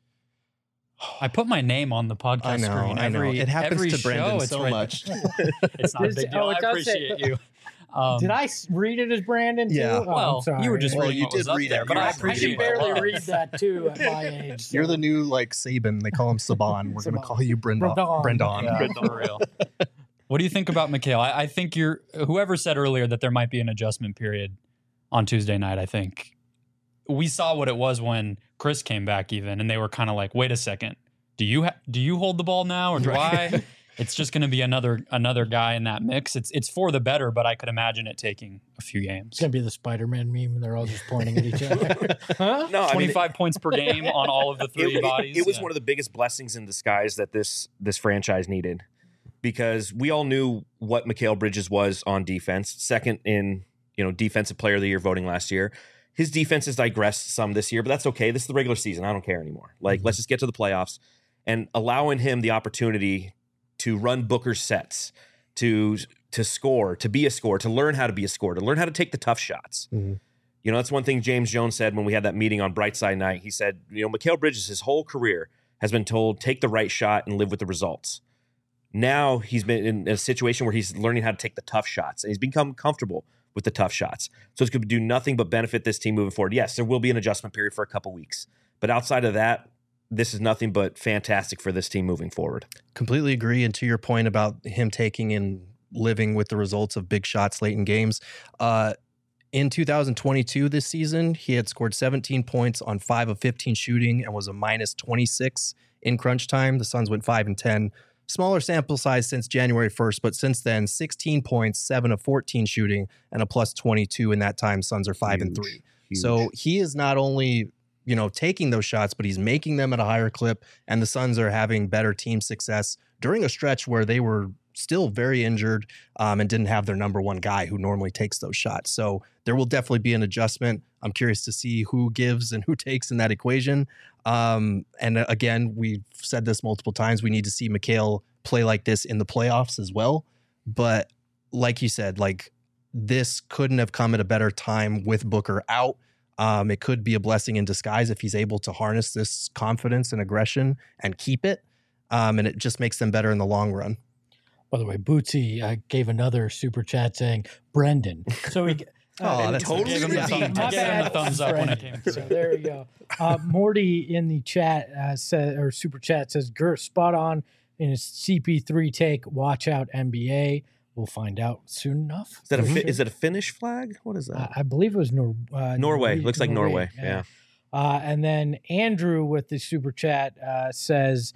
I put my name on the podcast screen. I know. It happens every to Brendan show, so right much. It's not a big deal. I appreciate you. Did I read it as Brandon too? Yeah. Oh, Well, I'm sorry. you were just Well, reading you what was did up read there, it. but You I were- I appreciate can barely it. read that too at my age. so. You're the new like Saban. They call him Saban. We're going to call you Brendan. Brendan. Yeah. For real. What do you think about McHale? I think whoever said earlier that there might be an adjustment period on Tuesday night. I think we saw what it was when Chris came back even, and they were kind of like, wait a second. Do you hold the ball now or do I? It's just going to be another guy in that mix. It's for the better, but I could imagine it taking a few games. It's gonna be the Spider-Man meme, and they're all just pointing at each other. Huh? No, I mean, 25 points per game on all of the three bodies. It was Yeah. one of the biggest blessings in disguise that this franchise needed, because we all knew what Mikal Bridges was on defense, second in defensive player of the year voting last year. His defense has digressed some this year, but that's okay. This is the regular season. I don't care anymore. Like, let's just get to the playoffs, and allowing him the opportunity to run Booker's sets, to score, to be a scorer, to learn how to be a scorer, to learn how to take the tough shots. Mhm. That's one thing James Jones said when we had that meeting on Brightside Night. He said, Mikal Bridges, his whole career has been told, take the right shot and live with the results. Now he's been in a situation where he's learning how to take the tough shots, and he's become comfortable with the tough shots. So it's going to do nothing but benefit this team moving forward. Yes, there will be an adjustment period for a couple weeks, but outside of that, this is nothing but fantastic for this team moving forward. Completely agree. And to your point about him taking and living with the results of big shots late in games, in 2022, this season, he had scored 17 points on 5 of 15 shooting and was a minus 26 in crunch time. The Suns went 5 and 10. Smaller sample size since January 1st, but since then, 16 points, 7 of 14 shooting, and a plus 22 in that time. Suns are 5 and 3. Huge. So he is not only taking those shots, but he's making them at a higher clip, and the Suns are having better team success during a stretch where they were still very injured and didn't have their number one guy who normally takes those shots. So there will definitely be an adjustment. I'm curious to see who gives and who takes in that equation. And again, we've said this multiple times. We need to see Mikal play like this in the playoffs as well. But like you said, this couldn't have come at a better time with Booker out. It could be a blessing in disguise if he's able to harness this confidence and aggression and keep it. And it just makes them better in the long run. By the way, Bootsy gave another super chat saying Brendan. So he That's totally Gave him the redeemed. thumbs up when it came So through. there you go. Morty in the chat said, or super chat says, Gert spot on in his CP3 take. Watch out, NBA. We'll find out soon enough. Is that a Finnish flag? What is that? I believe it was Norway. Looks like Norway. Yeah. And then Andrew with the super chat says,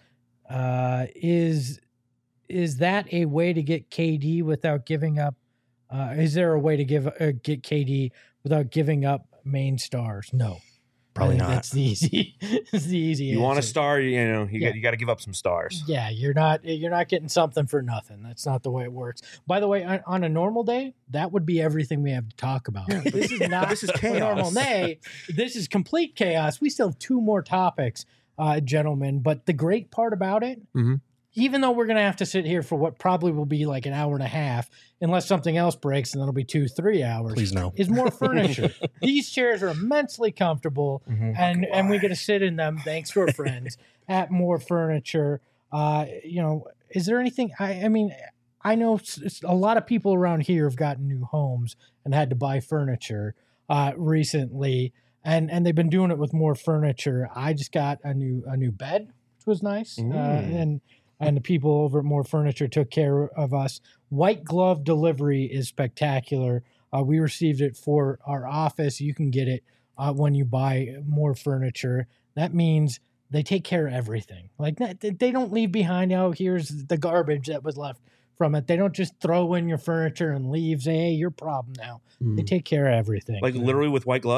is that a way to get KD without giving up? Is there a way to get KD without giving up main stars? No, Probably I think not. That's the easy. It's the easy. You want a answer. star, Yeah. you got to give up some stars. Yeah, you're not getting something for nothing. That's not the way it works. By the way, on a normal day, that would be everything we have to talk about. This is not This is a chaos. normal day. This is complete chaos. We still have 2 more topics, gentlemen. But the great part about it, Mhm. even though we're going to have to sit here for what probably will be like an hour and a half, unless something else breaks, and that'll be 2-3 hours. Please no. Is more furniture. These chairs are immensely comfortable, Mhm. and we get to sit in them thanks to our friends at More Furniture. Is there anything? I mean, I know a lot of people around here have gotten new homes and had to buy furniture recently, and they've been doing it with More Furniture. I just got a new bed, which was nice, and the people over at More Furniture took care of us. White glove delivery is spectacular. We received it for our office. You can get it when you buy More Furniture. That means they take care of everything. Like they don't leave behind, here's the garbage that was left from it. They don't just throw in your furniture and leave, say, hey, your problem now. They take care of everything. Like literally with white gloves?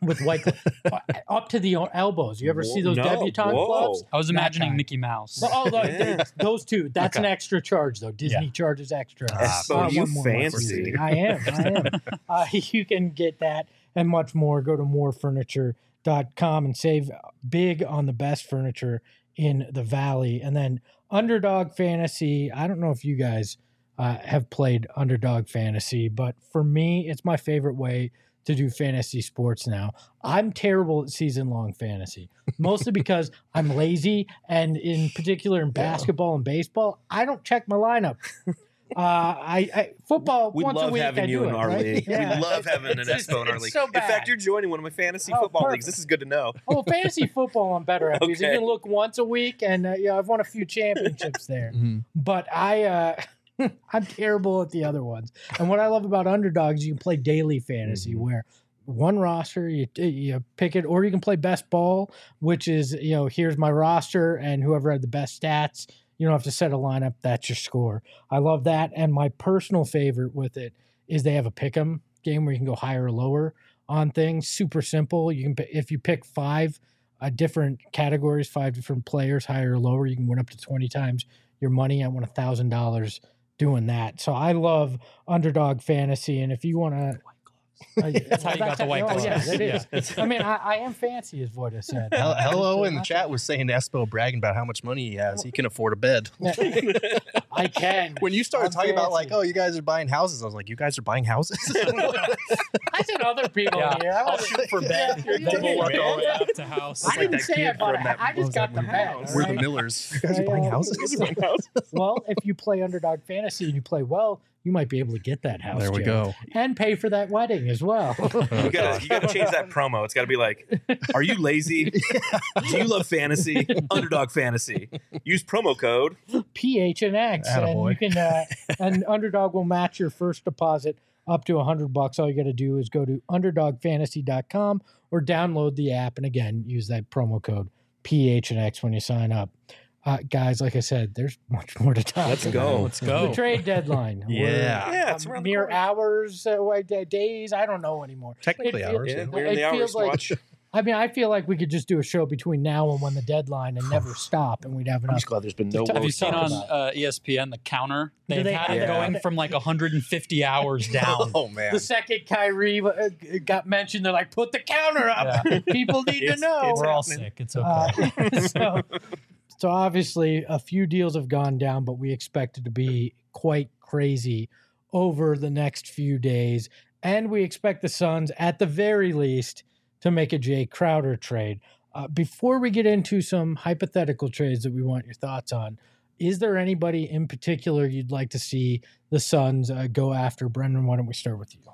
with white up to the elbows. You ever see those No, debutante whoa. gloves? I was That imagining kind. Mickey Mouse. Oh, Yeah. those two. That's an Okay. extra charge, though. Disney charges extra. Espo, you one more fancy. I am. You can get that and much more. Go to morefurniture.com and save big on the best furniture in the Valley. And then Underdog Fantasy. I don't know if you guys have played Underdog Fantasy, but for me, it's my favorite way to do fantasy sports now. I'm terrible at season-long fantasy, mostly because I'm lazy, and in particular in basketball and baseball, I don't check my lineup. I football We once a love week. having I you do in it, our right? league. Yeah. We love having an It's Espo in our league. so In bad. fact, you're joining one of my fantasy Oh, football perfect. leagues. This is good to know. Oh, fantasy football, I'm better at because you Okay. can look once a week, and I've won a few championships there. Mhm. But I'm terrible at the other ones. And what I love about Underdogs, you can play daily fantasy where one roster, you pick it, or you can play best ball, which is, here's my roster, and whoever had the best stats, you don't have to set a lineup. That's your score. I love that. And my personal favorite with it is they have a pick 'em game where you can go higher or lower on things. Super simple. You can, if you pick 5 different categories, 5 different players, higher or lower, you can win up to 20 times your money. I won $1,000 doing that. So I love Underdog Fantasy. And if you want to, That's how you got the white gloves. Yeah, that is. Yeah. I mean, I am fancy, as Voida said. Hello in the chat was saying Espo bragging about how much money he has. He can afford a bed. I can. When you started I'm talking about fancy. you guys are buying houses, I was like, you guys are buying houses? I said other people Yeah. here. I I'll wasn't- shoot for bed. Yeah, Then we'll work yeah, our way yeah. up to house. I like didn't that say I kid bought from a that- I what just was got that the movie? bed. We're the right? Millers. You guys are buying houses? Well, if you play Underdog Fantasy and you play well, you might be able to get that house. There we Joe, go. and pay for that wedding as well. You gotta change that promo. It's gotta be like, are you lazy? Do you love fantasy? Underdog Fantasy. Use promo code. PHNX, and Attaboy. you can and Underdog will match your first deposit up to $100. All you got to do is go to underdogfantasy.com or download the app, and again, use that promo code PHNX when you sign up. Guys, like I said, there's much more to talk Let's about. go. Let's The go. trade deadline. Yeah. Yeah, it's around the mere corner. hours, days. I don't know anymore. Technically It feel- hours. Yeah, Yeah. we're in the It hours feels like- watch. I mean, I feel like we could just do a show between now and when the deadline and never stop, and we'd have I'm enough. just glad there's been no Have Have you woes seen talked on about. ESPN the counter? Do They've they had have it that? going from like 150 hours down. Oh, man. The second Kyrie got mentioned, they're like, "Put the counter up. People need to It's- know." it's We're all happening. sick. It's okay. So obviously, a few deals have gone down, but we expect it to be quite crazy over the next few days, and we expect the Suns, at the very least, to make a Jay Crowder trade. Before we get into some hypothetical trades that we want your thoughts on, is there anybody in particular you'd like to see the Suns go after? Brendan, why don't we start with you?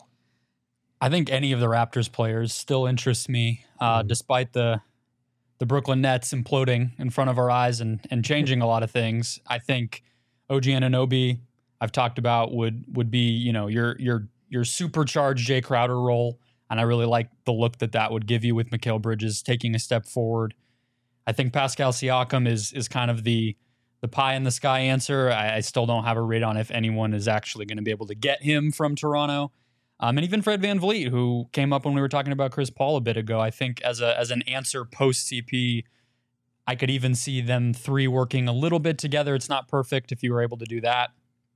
I think any of the Raptors players still interest me, despite the Brooklyn Nets imploding in front of our eyes and changing a lot of things. I think OG Anunoby, I've talked about, would be your supercharged Jay Crowder role, and I really like the look that would give you with Mikal Bridges taking a step forward. I think Pascal Siakam is kind of the pie in the sky answer. I still don't have a read on if anyone is actually going to be able to get him from Toronto. And even Fred VanVleet, who came up when we were talking about Chris Paul a bit ago. I think as an answer post CP, I could even see them 3 working a little bit together. It's not perfect if you were able to do that.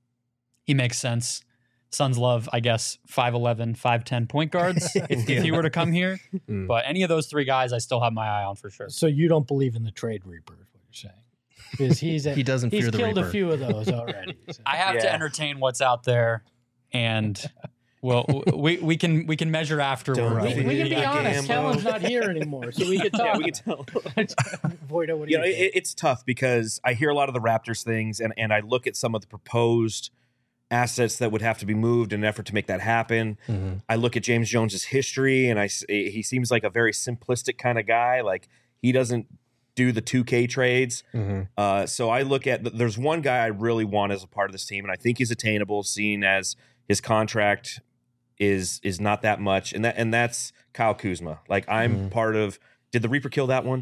He makes sense. Suns love, I guess, 5'11", 5'10" point guards if he were to come here. Mm. But any of those 3 guys, I still have my eye on for sure. So you don't believe in the trade reaper, is what you're saying? Because He doesn't he's fear the killed Reaper. a few of those already. So. I have to Yeah. entertain what's out there, and well, we can measure afterward. Don't we can be Yeah, honest. Gambo. Kellen's not here anymore, so we can talk. Yeah, we can tell. Voida, what do You you know, think? it's tough because I hear a lot of the Raptors things, and I look at some of the proposed assets that would have to be moved in an effort to make that happen. Mhm. I look at James Jones's history, and he seems like a very simplistic kind of guy. Like, he doesn't do the 2K trades. Mhm. So I look at there's one guy I really want as a part of this team, and I think he's attainable, seeing as his contract is not that much, and that's Kyle Kuzma. Like, I'm part of. Did the Reaper kill that one?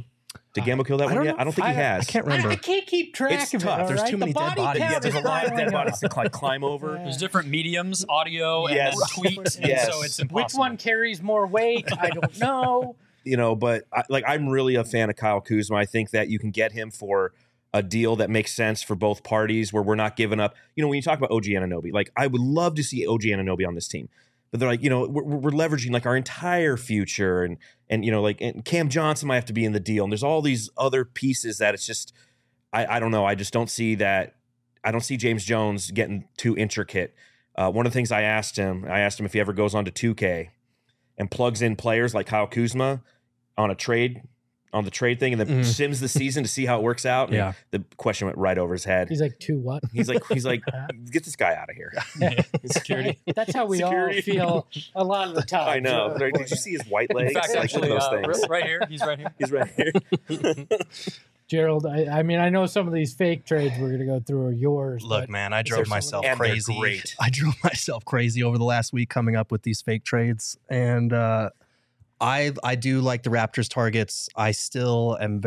Did Gamble kill that one don't yet? know. I don't think he has. I can't remember. I can't keep track It's of tough. it. all There's right? too many The dead body bodies. count Yeah, is there's a lot of piling dead up. bodies to climb over. Yeah. There's different mediums, audio, Yes. and tweet, and Yes. so it's Which impossible. one carries more weight? I don't know. But I'm really a fan of Kyle Kuzma. I think that you can get him for a deal that makes sense for both parties, where we're not giving up. When you talk about OG Anunoby, like I would love to see OG Anunoby on this team, but they're like, we're leveraging like our entire future, and and Cam Johnson might have to be in the deal, and there's all these other pieces that it's just, I don't know. I just don't see that. I don't see James Jones getting too intricate. One of the things I asked him if he ever goes on to 2K and plugs in players like Kyle Kuzma on the trade thing, and then sims the season to see how it works out. And Yeah. the question went right over his head. He's like, to what? He's like, get this guy out of here. Security. That's how we Security. all feel a lot of the time. I know. Did you see his white legs? In fact, Like, actually, look at those things. right here. He's right here. He's right here. Gerald, I mean, I know some of these fake trades we're going to go through are yours. Look, but man, I there drove some- myself And they're crazy. great. I drove myself crazy over the last week coming up with these fake trades, and I do like the Raptors targets. I still am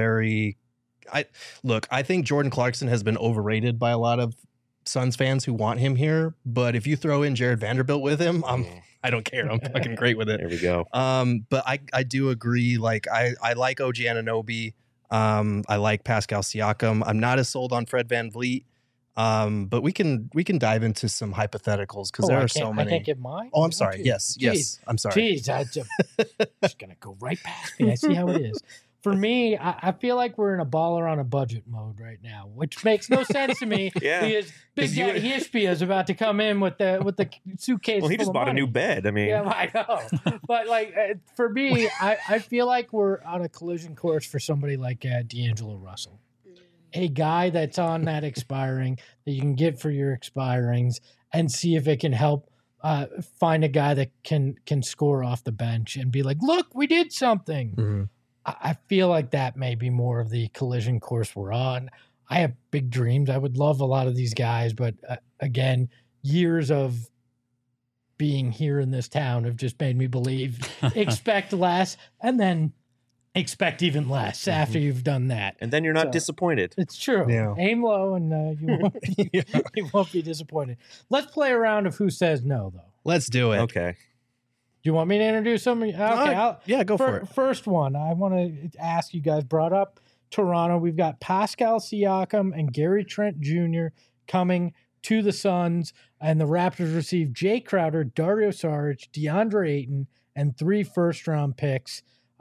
I think Jordan Clarkson has been overrated by a lot of Suns fans who want him here. But if you throw in Jared Vanderbilt with him, I don't care. I'm fucking great with it. There we go. But I do agree. Like I like OG Anunoby. I like Pascal Siakam. I'm not as sold on Fred VanVleet. But we can dive into some hypotheticals because there are so many. I can't get mine. Oh, I'm sorry. Jeez. Yes. I'm sorry. Jeez, I just going to go right past me. I see how it is. For me, I feel like we're in a baller on a budget mode right now, which makes no sense to me. Yeah. Because Big 'Cause you- Daddy Ishbia is about to come in with the suitcase. Well, he full just of bought a money. new bed. I mean, Yeah, I know. But like for me, I feel like we're on a collision course for somebody like D'Angelo Russell, a guy that's on that expiring that you can get for your expirings and see if it can help find a guy that can score off the bench and be like, look, we did something. Mhm. I feel like that may be more of the collision course we're on. I have big dreams. I would love a lot of these guys, but again, years of being here in this town have just made me believe expect less and then expect even less after you've done that. and then you're not So- disappointed. It's true. Yeah. Aim low and you won't be disappointed. Let's play a round of who says no, though. Let's do it. Okay. Do you want me to introduce somebody? Okay, Yeah, go for it. First one, I want to ask you guys, brought up Toronto. We've got Pascal Siakam and Gary Trent Jr. coming to the Suns, and the Raptors receive Jay Crowder, Dario Saric, DeAndre Ayton, and 3 first-round picks.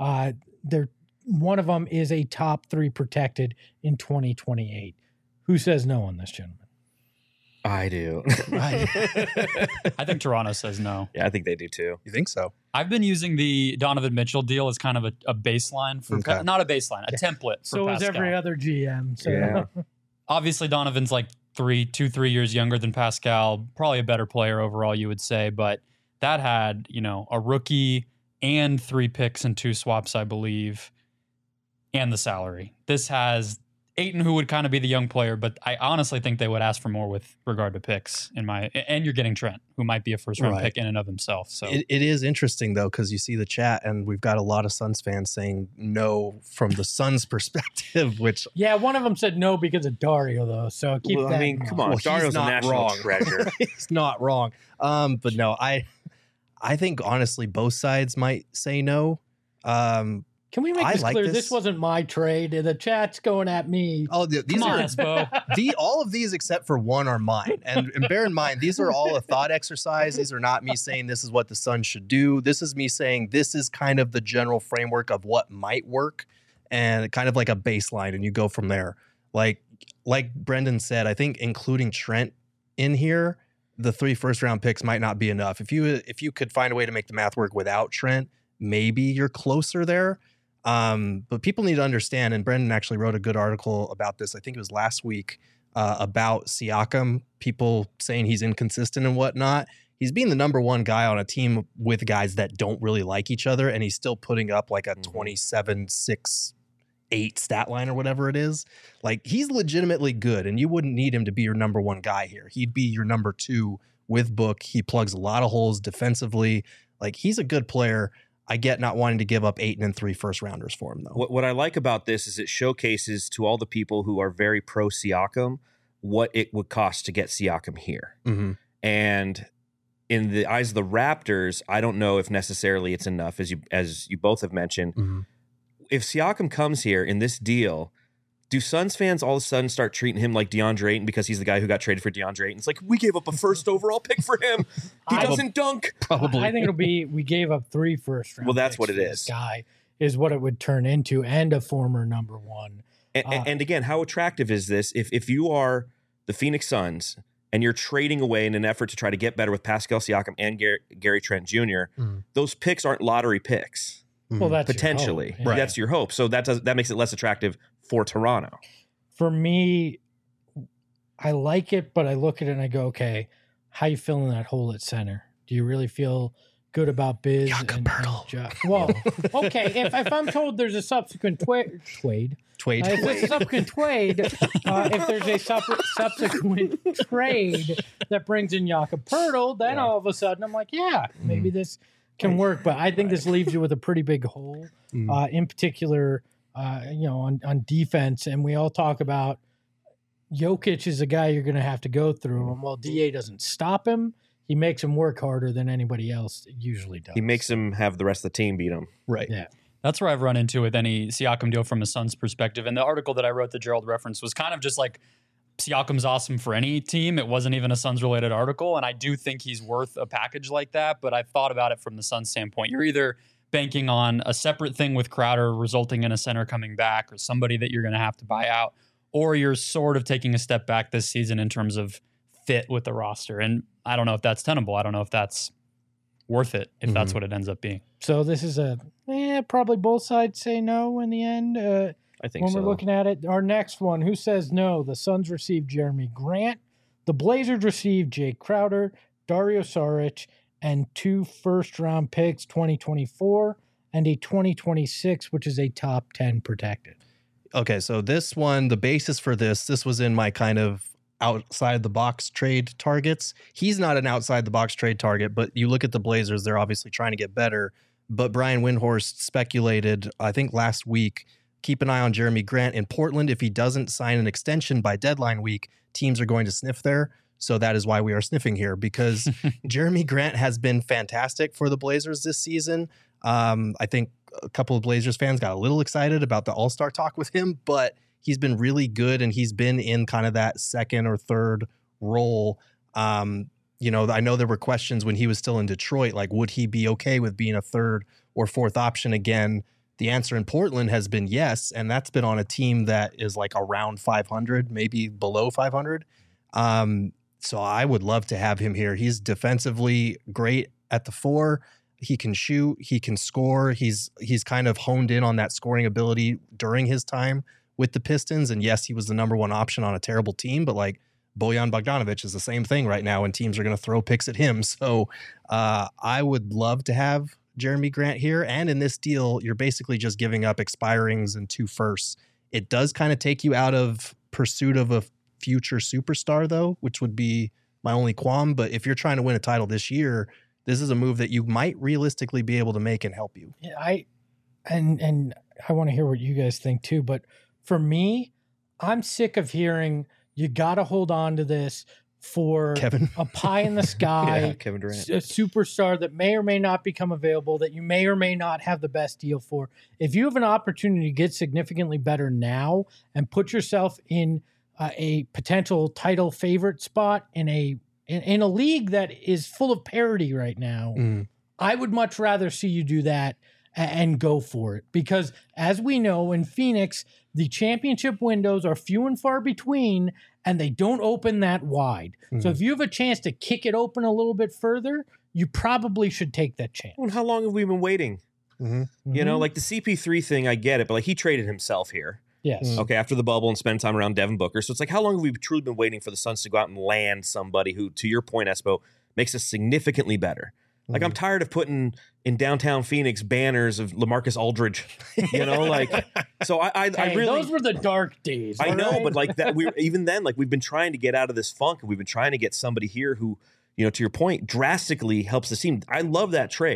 One of them is a top 3 protected in 2028. Who says no on this, gentlemen? I do. I think Toronto says no. Yeah, I think they do too. You think so? I've been using the Donovan Mitchell deal as kind of a baseline for Okay. not a baseline, a template for So is Pascal. every other GM. So Yeah. Obviously, Donovan's like 3 years younger than Pascal, probably a better player overall, you would say. But that had, a rookie and 3 picks and 2 swaps, I believe, and the salary. This has Ayton, who would kind of be the young player, but I honestly think they would ask for more with regard to picks. And you're getting Trent, who might be a first round Right. pick in and of himself. So It is interesting though, because you see the chat, and we've got a lot of Suns fans saying no from the Suns' perspective, which yeah, one of them said no because of Dario, though. So keep Well, that. I mean, in come mind. on. Well, he's Dario's a not national wrong. treasure. is not wrong. But no, I think honestly both sides might say no. Can we make I this like clear? this. This wasn't my trade. The chat's going at me. These come on, are Espo. all of these except for one are mine. And bear in mind, these are all a thought exercise. These are not me saying this is what the Suns should do. This is me saying this is kind of the general framework of what might work and kind of like a baseline, and you go from there. Like Brendan said, I think including Trent in here, the 3 first-round picks might not be enough. If you could find a way to make the math work without Trent, maybe you're closer there. But people need to understand, and Brendan actually wrote a good article about this, I think it was last week, about Siakam, people saying he's inconsistent and whatnot. He's being the number 1 guy on a team with guys that don't really like each other, and he's still putting up like a 27-6-8 stat line or whatever it is. Like, he's legitimately good, and you wouldn't need him to be your number 1 guy here. He'd be your number 2 with Book. He plugs a lot of holes defensively. Like, he's a good player. I get not wanting to give up 8 and 3 first rounders for him, though. What I like about this is it showcases to all the people who are very pro Siakam what it would cost to get Siakam here. Mm-hmm. And in the eyes of the Raptors, I don't know if necessarily it's enough, as you both have mentioned. Mm-hmm. If Siakam comes here in this deal, do Suns fans all of a sudden start treating him like DeAndre Ayton because he's the guy who got traded for DeAndre Ayton? It's like, we gave up a first overall pick for him. He doesn't dunk. Probably. I think it'll be, we gave up 3 first round. Well, that's picks what it for is. This guy is what it would turn into, and a former number 1. And again, how attractive is this? If you are the Phoenix Suns and you're trading away in an effort to try to get better with Pascal Siakam and Gary Trent Jr., those picks aren't lottery picks. Well, that's Potentially. your hope. Right. That's your hope. So that makes it less attractive for Toronto. For me, I like it, but I look at it and I go, okay, how you feeling that hole at center? Do you really feel good about Biz? Jakob Poeltl. Well, okay, if I'm told there's a subsequent trade, if there's a subsequent trade, if there's a subsequent trade that brings in Jakob Poeltl, then all of a sudden I'm like, yeah, maybe this can work. But I think this leaves you with a pretty big hole, in particular, on defense. And we all talk about Jokic is a guy you're going to have to go through. And while DA doesn't stop him, he makes him work harder than anybody else usually does. He makes him have the rest of the team beat him. Right. Yeah. That's where I've run into with any Siakam deal from a Suns perspective. And the article that I wrote that Gerald referenced was kind of just like, Siakam's awesome for any team. It wasn't even a Suns-related article, and I do think he's worth a package like that, but I've thought about it from the Suns standpoint. You're either banking on a separate thing with Crowder resulting in a center coming back or somebody that you're going to have to buy out, or you're sort of taking a step back this season in terms of fit with the roster. And I don't know if that's tenable. I don't know if that's worth it, if that's what it ends up being. So this is probably both sides say no in the end. I think when so. we're looking at it, our next one, who says no? The Suns received Jeremy Grant. The Blazers received Jay Crowder, Dario Saric, and 2 first-round picks, 2024, and a 2026, which is a top 10 protected. Okay, so this one, the basis for this was in my kind of outside the box trade targets. He's not an outside the box trade target, but you look at the Blazers, they're obviously trying to get better. But Brian Windhorst speculated, I think last week, keep an eye on Jeremy Grant in Portland. If he doesn't sign an extension by deadline week, teams are going to sniff there. So that is why we are sniffing here, because Jeremy Grant has been fantastic for the Blazers this season. I think a couple of Blazers fans got a little excited about the All-Star talk with him, but he's been really good, and he's been in kind of that second or third role. I know there were questions when he was still in Detroit, like, would he be okay with being a third or fourth option again? The answer in Portland has been yes, and that's been on a team that is like around 500, maybe below 500. So I would love to have him here. He's defensively great at the 4. He can shoot. He can score. He's kind of honed in on that scoring ability during his time with the Pistons. And yes, he was the number 1 option on a terrible team, but like Bojan Bogdanovic is the same thing right now, and teams are going to throw picks at him. So I would love to have Jeremy Grant here. And in this deal, you're basically just giving up expirings and 2 firsts. It does kind of take you out of pursuit of a future superstar, though, which would be my only qualm. But if you're trying to win a title this year, this is a move that you might realistically be able to make and help you. Yeah, I want to hear what you guys think too. But for me, I'm sick of hearing you got to hold on to this for Kevin. a pie in the sky, Yeah, Kevin Durant. a superstar that may or may not become available, that you may or may not have the best deal for. If you have an opportunity to get significantly better now and put yourself in a potential title favorite spot in a league that is full of parity right now, I would much rather see you do that and go for it. Because as we know, in Phoenix, the championship windows are few and far between, and they don't open that wide. So if you have a chance to kick it open a little bit further, you probably should take that chance. Well, how long have we been waiting? You know, like the CP3 thing, I get it, but like he traded himself here. Yes. Okay, after the bubble and spend time around Devin Booker. So it's like, how long have we truly been waiting for the Suns to go out and land somebody who, to your point, Espo, makes us significantly better? Like, I'm tired of putting in downtown Phoenix banners of LaMarcus Aldridge, you know, like, so I really, those were the dark days. I all know, right? but like that, even then, like we've been trying to get out of this funk, and we've been trying to get somebody here who, you know, to your point, drastically helps the team. I love that trade.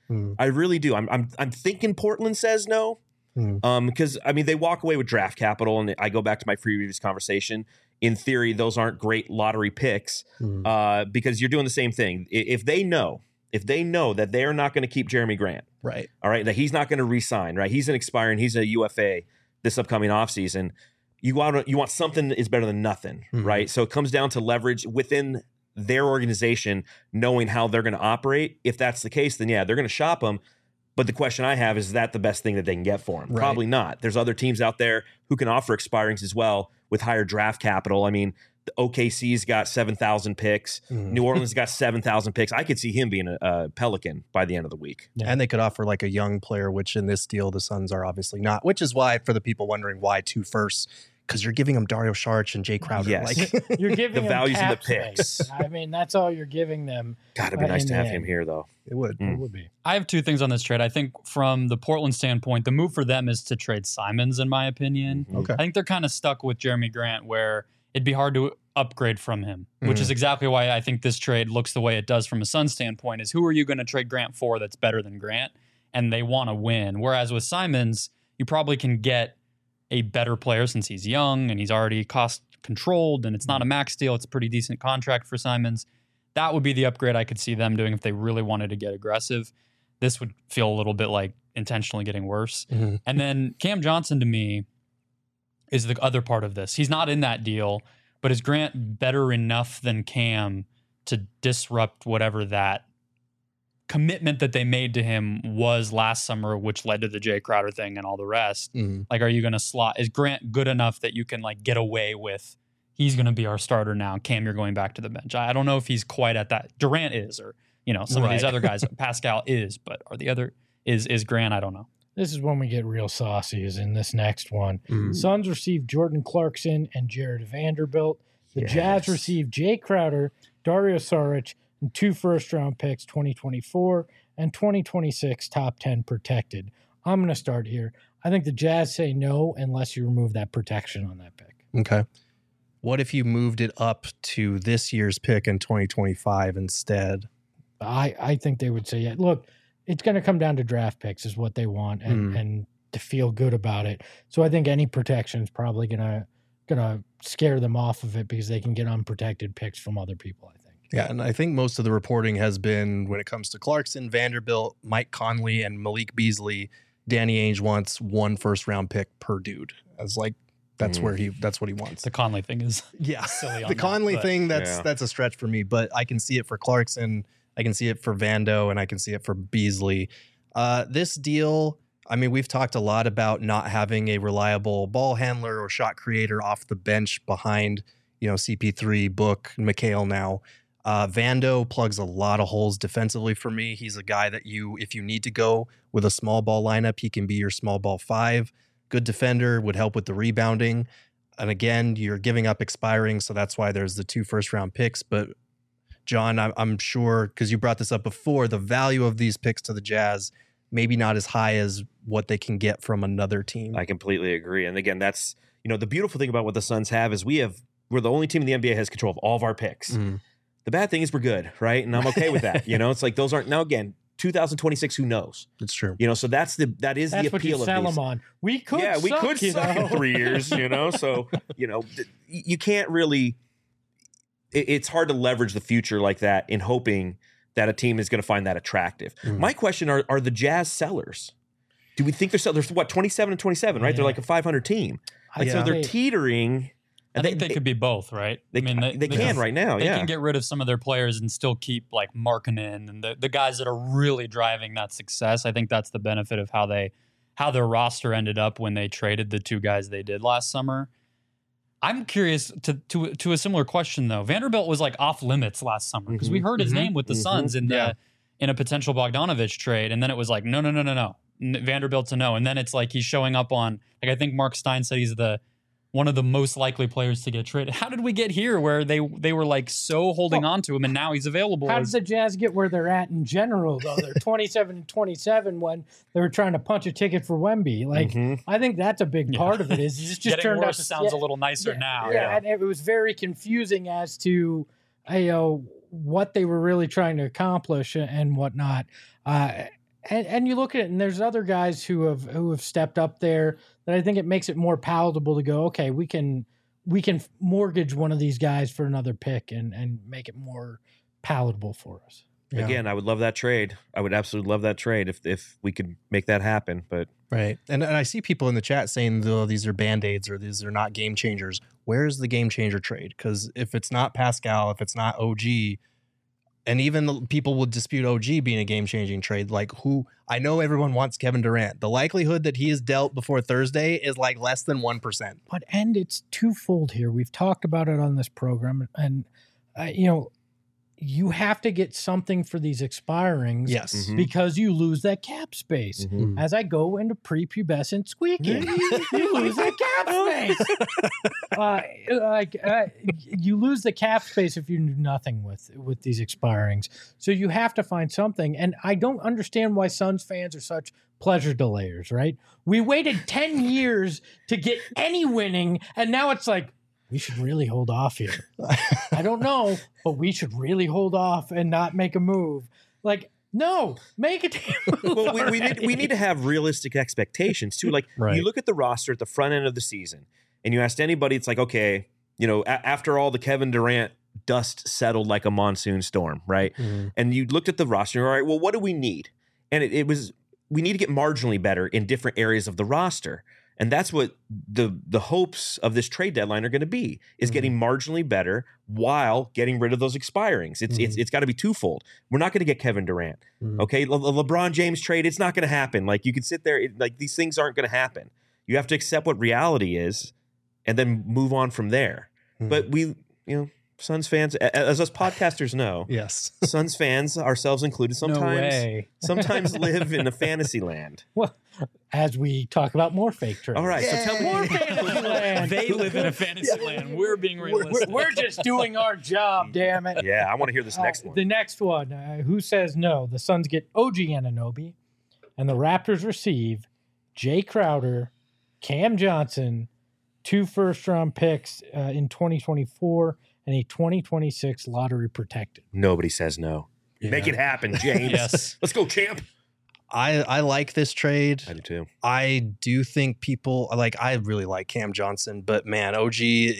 I really do. I'm thinking Portland says no. Because I mean they walk away with draft capital, and I go back to my previous conversation. In theory, those aren't great lottery picks because you're doing the same thing. If they know that they're not going to keep Jeremy Grant, Right. all right, that he's not going to re-sign, right? He's an expiring, he's a UFA this upcoming offseason. You want something that is better than nothing, right? So it comes down to leverage within their organization, knowing how they're going to operate. If that's the case, then yeah, they're going to shop them. But the question I have is that the best thing that they can get for him? Right. Probably not. There's other teams out there who can offer expirings as well with higher draft capital. I mean, the OKC's got 7,000 picks. New Orleans got 7,000 picks. I could see him being a Pelican by the end of the week. Yeah. And they could offer like a young player, which in this deal, the Suns are obviously not, which is why for the people wondering why 2 firsts, because you're giving them Dario Saric and Jay Crowder. Yes. Like, You're giving The them values in the cap space. picks. I mean, that's all you're giving them. God, it'd be nice in to the have end. him here, though. it would. It would be. I have 2 things on this trade. I think from the Portland standpoint, the move for them is to trade Simons, in my opinion. Okay. I think they're kind of stuck with Jeremy Grant where it'd be hard to upgrade from him, which is exactly why I think this trade looks the way it does from a Suns standpoint is who are you going to trade Grant for that's better than Grant? And they want to win. Whereas with Simons, you probably can get a better player since he's young and he's already cost controlled and it's not a max deal. It's a pretty decent contract for Simons. That would be the upgrade I could see them doing if they really wanted to get aggressive. This would feel a little bit like intentionally getting worse. And then Cam Johnson to me is the other part of this. He's not in that deal, but is Grant better enough than Cam to disrupt whatever that commitment that they made to him was last summer, which led to the Jay Crowder thing and all the rest? Like, are you going to slot? Is Grant good enough that you can like get away with? He's going to be our starter now. Cam, you're going back to the bench. I don't know if he's quite at that. Durant is, or some of these other guys. Pascal is, but are the other is Grant? I don't know. This is when we get real saucy, is in this next one. Suns received Jordan Clarkson and Jared Vanderbilt. The Jazz received Jay Crowder, Dario Saric, and 2 first-round picks, 2024 and 2026 top 10 protected. I'm going to start here. I think the Jazz say no unless you remove that protection on that pick. Okay. What if you moved it up to this year's pick in 2025 instead? I think they would say, yeah, look, it's going to come down to draft picks is what they want and to feel good about it. So I think any protection is probably going to scare them off of it because they can get unprotected picks from other people, I think. Yeah, and I think most of the reporting has been when it comes to Clarkson, Vanderbilt, Mike Conley, and Malik Beasley, Danny Ainge wants 1 first-round pick per dude. As like that's what he wants. The Conley thing is The silly. On that, Conley but- thing, that's a stretch for me, but I can see it for Clarkson, I can see it for Vando, and I can see it for Beasley. This deal, I mean, we've talked a lot about not having a reliable ball handler or shot creator off the bench behind, CP3, Book, McHale now. Vando plugs a lot of holes defensively for me. He's a guy that if you need to go with a small ball lineup, he can be your small ball 5. Good defender, would help with the rebounding. And again, you're giving up expiring, so that's why there's the 2 first-round picks. But John, I'm sure, because you brought this up before, the value of these picks to the Jazz maybe not as high as what they can get from another team. I completely agree. And again, that's the beautiful thing about what the Suns have is we're the only team in the NBA has control of all of our picks. The bad thing is we're good, right? And I'm okay with that. It's like those aren't now again. 2026, who knows? It's true. So that's the appeal what you of sell these. them on. We could suck in 3 years, So you can't really. It's hard to leverage the future like that in hoping that a team is going to find that attractive. My question are the Jazz sellers? Do we think they're sellers? They're what 27 and 27, right? Yeah. They're like a 500 team. So they're teetering. I think they could be both, right? They can right now. They can get rid of some of their players and still keep like Markkanen and the guys that are really driving that success. I think that's the benefit of how their roster ended up when they traded the 2 guys they did last summer. I'm curious to a similar question though. Vanderbilt was like off limits last summer because we heard his name with the Suns in a potential Bogdanovich trade, and then it was like no, Vanderbilt to no, and then it's like he's showing up on I think Mark Stein said he's one of the most likely players to get traded. How did we get here where they were like so holding on to him and now he's available? How did the Jazz get where they're at in general, though? They're 27 and 27 when they were trying to punch a ticket for Wemby. Like, I think that's a big part of it. Is it just getting turned worse out to, sounds a little nicer now. Yeah, and it was very confusing as to what they were really trying to accomplish and whatnot. and you look at it, and there's other guys who have stepped up there that I think it makes it more palatable to go, okay, we can mortgage one of these guys for another pick and make it more palatable for us. Yeah. Again, I would love that trade. I would absolutely love that trade if we could make that happen. But Right. And I see people in the chat saying, oh, these are Band-Aids or these are not game changers. Where's the game changer trade? Because if it's not Pascal, if it's not OG, and even people would dispute OG being a game-changing trade, like who – I know everyone wants Kevin Durant. The likelihood that he is dealt before Thursday is like less than 1%. And it's twofold here. We've talked about it on this program, and you have to get something for these expirings, Yes. because you lose that cap space. Mhm. As I go into prepubescent squeaking, you lose that cap space. You lose the cap space if you do nothing with these expirings. So you have to find something. And I don't understand why Suns fans are such pleasure delayers, right? We waited 10 years to get any winning, and now it's like, we should really hold off here. I don't know, but we should really hold off and not make a move. Like, no, make a damn move. well, we need to have realistic expectations too. Like Right. you look at the roster at the front end of the season, and you asked anybody, it's like, okay, after all the Kevin Durant dust settled like a monsoon storm, right? Mhm. And you looked at the roster, all right, well, what do we need? And it was we need to get marginally better in different areas of the roster. And that's what the hopes of this trade deadline are going to be, is getting marginally better while getting rid of those expirings. It's got to be twofold. We're not going to get Kevin Durant. Okay, LeBron James trade, it's not going to happen. Like you could sit there, like these things aren't going to happen. You have to accept what reality is and then move on from there. But we, Suns fans, as us podcasters know, Yes. Suns fans, ourselves included, No sometimes way. sometimes live in a fantasy land. Well, as we talk about more fake trades. All right, so tell More me. fantasy land. They live in a fantasy land. We're being realistic. We're just doing our job, damn it. Yeah, I want to hear this next one. The next one, who says no? The Suns get OG Anunoby, and the Raptors receive Jay Crowder, Cam Johnson, 2 first-round picks in 2024, and a 2026 lottery protected. Nobody says no. Make it happen, James. Yes. Let's go, champ. I like this trade. I do too. I do think people I really like Cam Johnson, but man, OG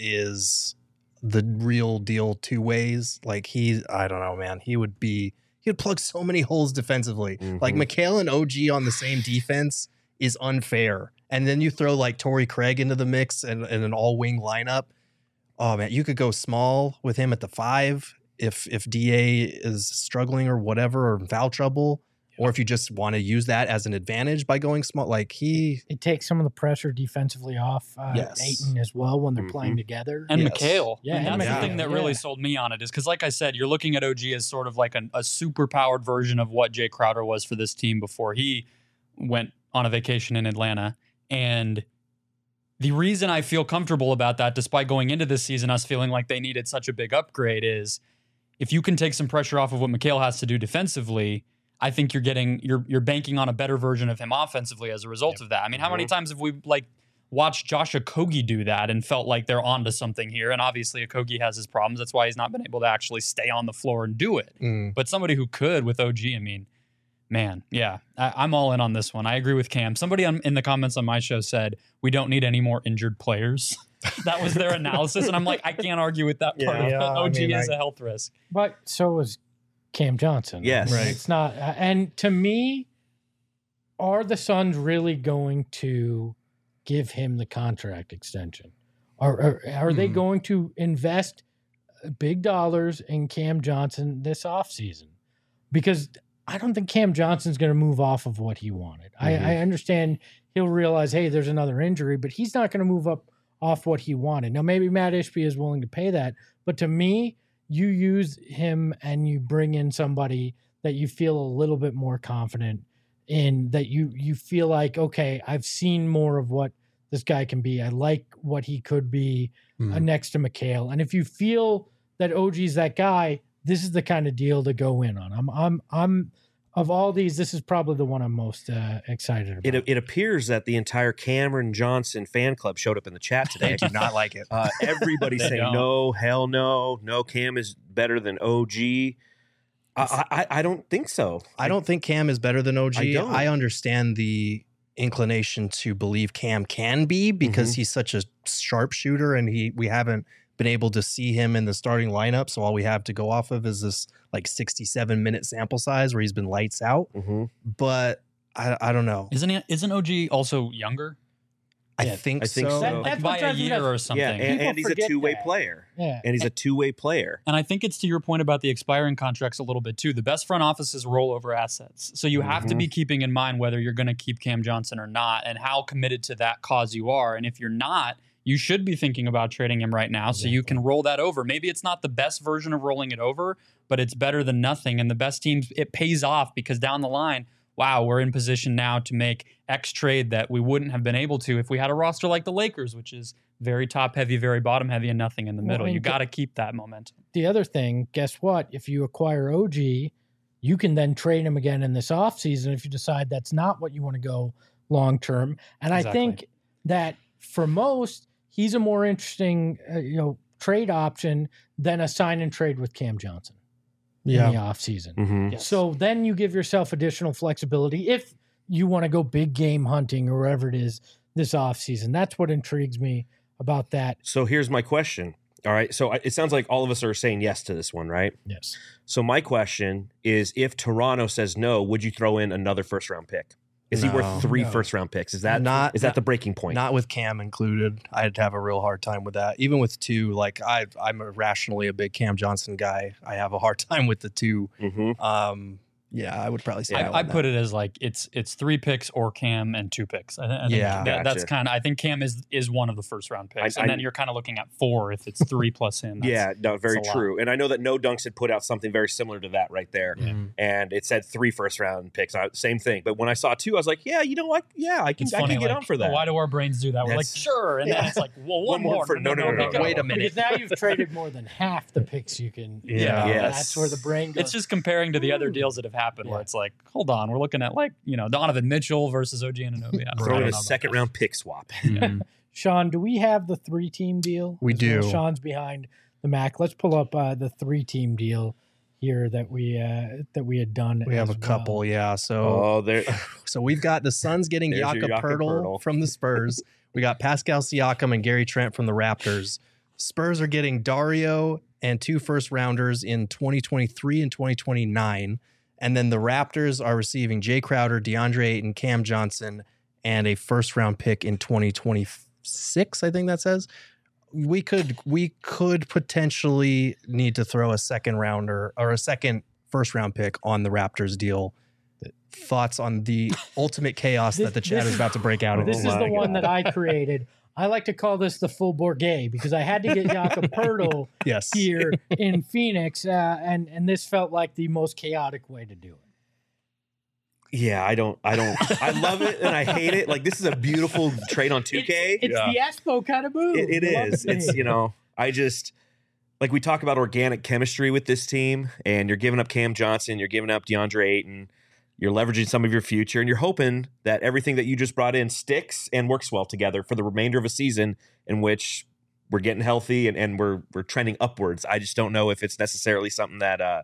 is the real deal 2 ways. Like I don't know, man. He would plug so many holes defensively. Like Mikal and OG on the same defense is unfair. And then you throw like Torrey Craig into the mix and an all wing lineup. Oh man, you could go small with him at the 5 if DA is struggling or whatever, or in foul trouble. Or if you just want to use that as an advantage by going small, It takes some of the pressure defensively off Yes. Aiton as well when they're playing together. And Yes. McHale. Yeah, And and that's the McHale. thing that really Yeah. sold me on it is because, like I said, you're looking at OG as sort of like a super powered version of what Jay Crowder was for this team before he went on a vacation in Atlanta. And the reason I feel comfortable about that, despite going into this season, us feeling like they needed such a big upgrade, is if you can take some pressure off of what McHale has to do defensively, I think you're banking on a better version of him offensively as a result of that. I mean, how many times have we watched Josh Okogie do that and felt like they're onto something here? And obviously Okogie has his problems. That's why he's not been able to actually stay on the floor and do it. But somebody who could with OG, I mean, man, yeah, I'm all in on this one. I agree with Cam. Somebody in the comments on my show said, we don't need any more injured players. That was their analysis. And I'm like, I can't argue with that part of it. OG is a health risk. But so is Cam Johnson. Yes. Right. It's not. And to me, are the Suns really going to give him the contract extension? Are they going to invest big dollars in Cam Johnson this offseason? Because I don't think Cam Johnson's going to move off of what he wanted. I understand he'll realize, hey, there's another injury, but he's not going to move up off what he wanted. Now, maybe Matt Ishbia is willing to pay that, but to me, you use him and you bring in somebody that you feel a little bit more confident in, that you feel like, okay, I've seen more of what this guy can be. I like what he could be next to McHale. And if you feel that OG's that guy, this is the kind of deal to go in on. I'm of all these, this is probably the one I'm most excited about. It appears that the entire Cameron Johnson fan club showed up in the chat today. I do not like it. Everybody's They saying don't. no, hell no, Cam is better than OG. I don't think so. I don't think Cam is better than OG. I don't. I understand the inclination to believe Cam can be because he's such a sharpshooter, and we haven't been able to see him in the starting lineup. So all we have to go off of is this like 67-minute sample size where he's been lights out. But I don't know. Isn't OG also younger? I Yeah, think I think so. so. Like That's by what a drives me year nuts. or something. Yeah, and he's a forget two-way that. player. Yeah. And he's a two-way player. And I think it's to your point about the expiring contracts a little bit too. The best front offices roll over assets. So you have to be keeping in mind whether you're going to keep Cam Johnson or not and how committed to that cause you are. And if you're not, you should be thinking about trading him right now so you can roll that over. Maybe it's not the best version of rolling it over, but it's better than nothing. And the best teams, it pays off because down the line, wow, we're in position now to make X trade that we wouldn't have been able to if we had a roster like the Lakers, which is very top heavy, very bottom heavy, and nothing in the middle. and You got to keep that momentum. The other thing, guess what? If you acquire OG, you can then trade him again in this offseason if you decide that's not what you want to go long term. And Exactly. I think that for most, he's a more interesting trade option than a sign and trade with Cam Johnson in the offseason. Yes. So then you give yourself additional flexibility if you want to go big game hunting or wherever it is this offseason. That's what intrigues me about that. So here's my question. All right. So it sounds like all of us are saying yes to this one, right? Yes. So my question is, if Toronto says no, would you throw in another first-round pick? Is he No. worth three No. first-round picks? Is that Not- that the breaking point? Not with Cam included. I'd have a real hard time with that. Even with two, like I'm rationally a big Cam Johnson guy. I have a hard time with the two. Yeah, I would probably say that I one put it as like it's 3 picks or Cam and 2 picks. I think Yeah. that's Gotcha. kind of. I think Cam is one of the first round picks, I- and then you're kind of looking at 4 if it's 3 plus him. Yeah, no, very that's a lot. true. And I know that No Dunks had put out something very similar to that right there. And it said 3 first-round picks. Same thing. But when I saw 2, I was like, yeah, you know what? Yeah, I can It's funny, get like, on for that. Why do our brains do that? We're like, That's- sure, and then it's like, well, one more. for- no, make it Wait up. a minute. Because now you've traded more than half the picks you can. Yeah. Yes. That's where the brain goes. It's just comparing to the other deals that have happened, where Yeah. it's like, hold on, we're looking at like Donovan Mitchell versus OG Anunoby. I Throw don't in know a about second-round pick swap. Sean, do we have the 3-team deal? We As well? do. Sean's behind the Mac. Let's pull up the 3-team deal here that we had done. We have as a couple, well. yeah. So Oh, there. so we've got the Suns getting There's your Jakob Jakob Poeltl Poeltl. from the Spurs. We got Pascal Siakam and Gary Trent from the Raptors. Spurs are getting Dario and 2 first-rounders in 2023 and 2029. And then the Raptors are receiving Jay Crowder, DeAndre Ayton, Cam Johnson, and a first-round pick in 2026, I think that says. We could potentially need to throw a second rounder or a second first-round pick on the Raptors deal. Thoughts on the ultimate chaos that the chat is about to break out This into? is my the one God. that I created. I like to call this the full Bourget because I had to get Jakob Poeltl Yes. here in Phoenix, and this felt like the most chaotic way to do it. Yeah, I don't. I love it and I hate it. Like, this is a beautiful trade on 2K. It's the Espo kind of move. It You love is. to It's, see. I just, like, we talk about organic chemistry with this team, and you're giving up Cam Johnson, you're giving up DeAndre Ayton, you're leveraging some of your future, and you're hoping that everything that you just brought in sticks and works well together for the remainder of a season in which we're getting healthy and we're trending upwards. I just don't know if it's necessarily something that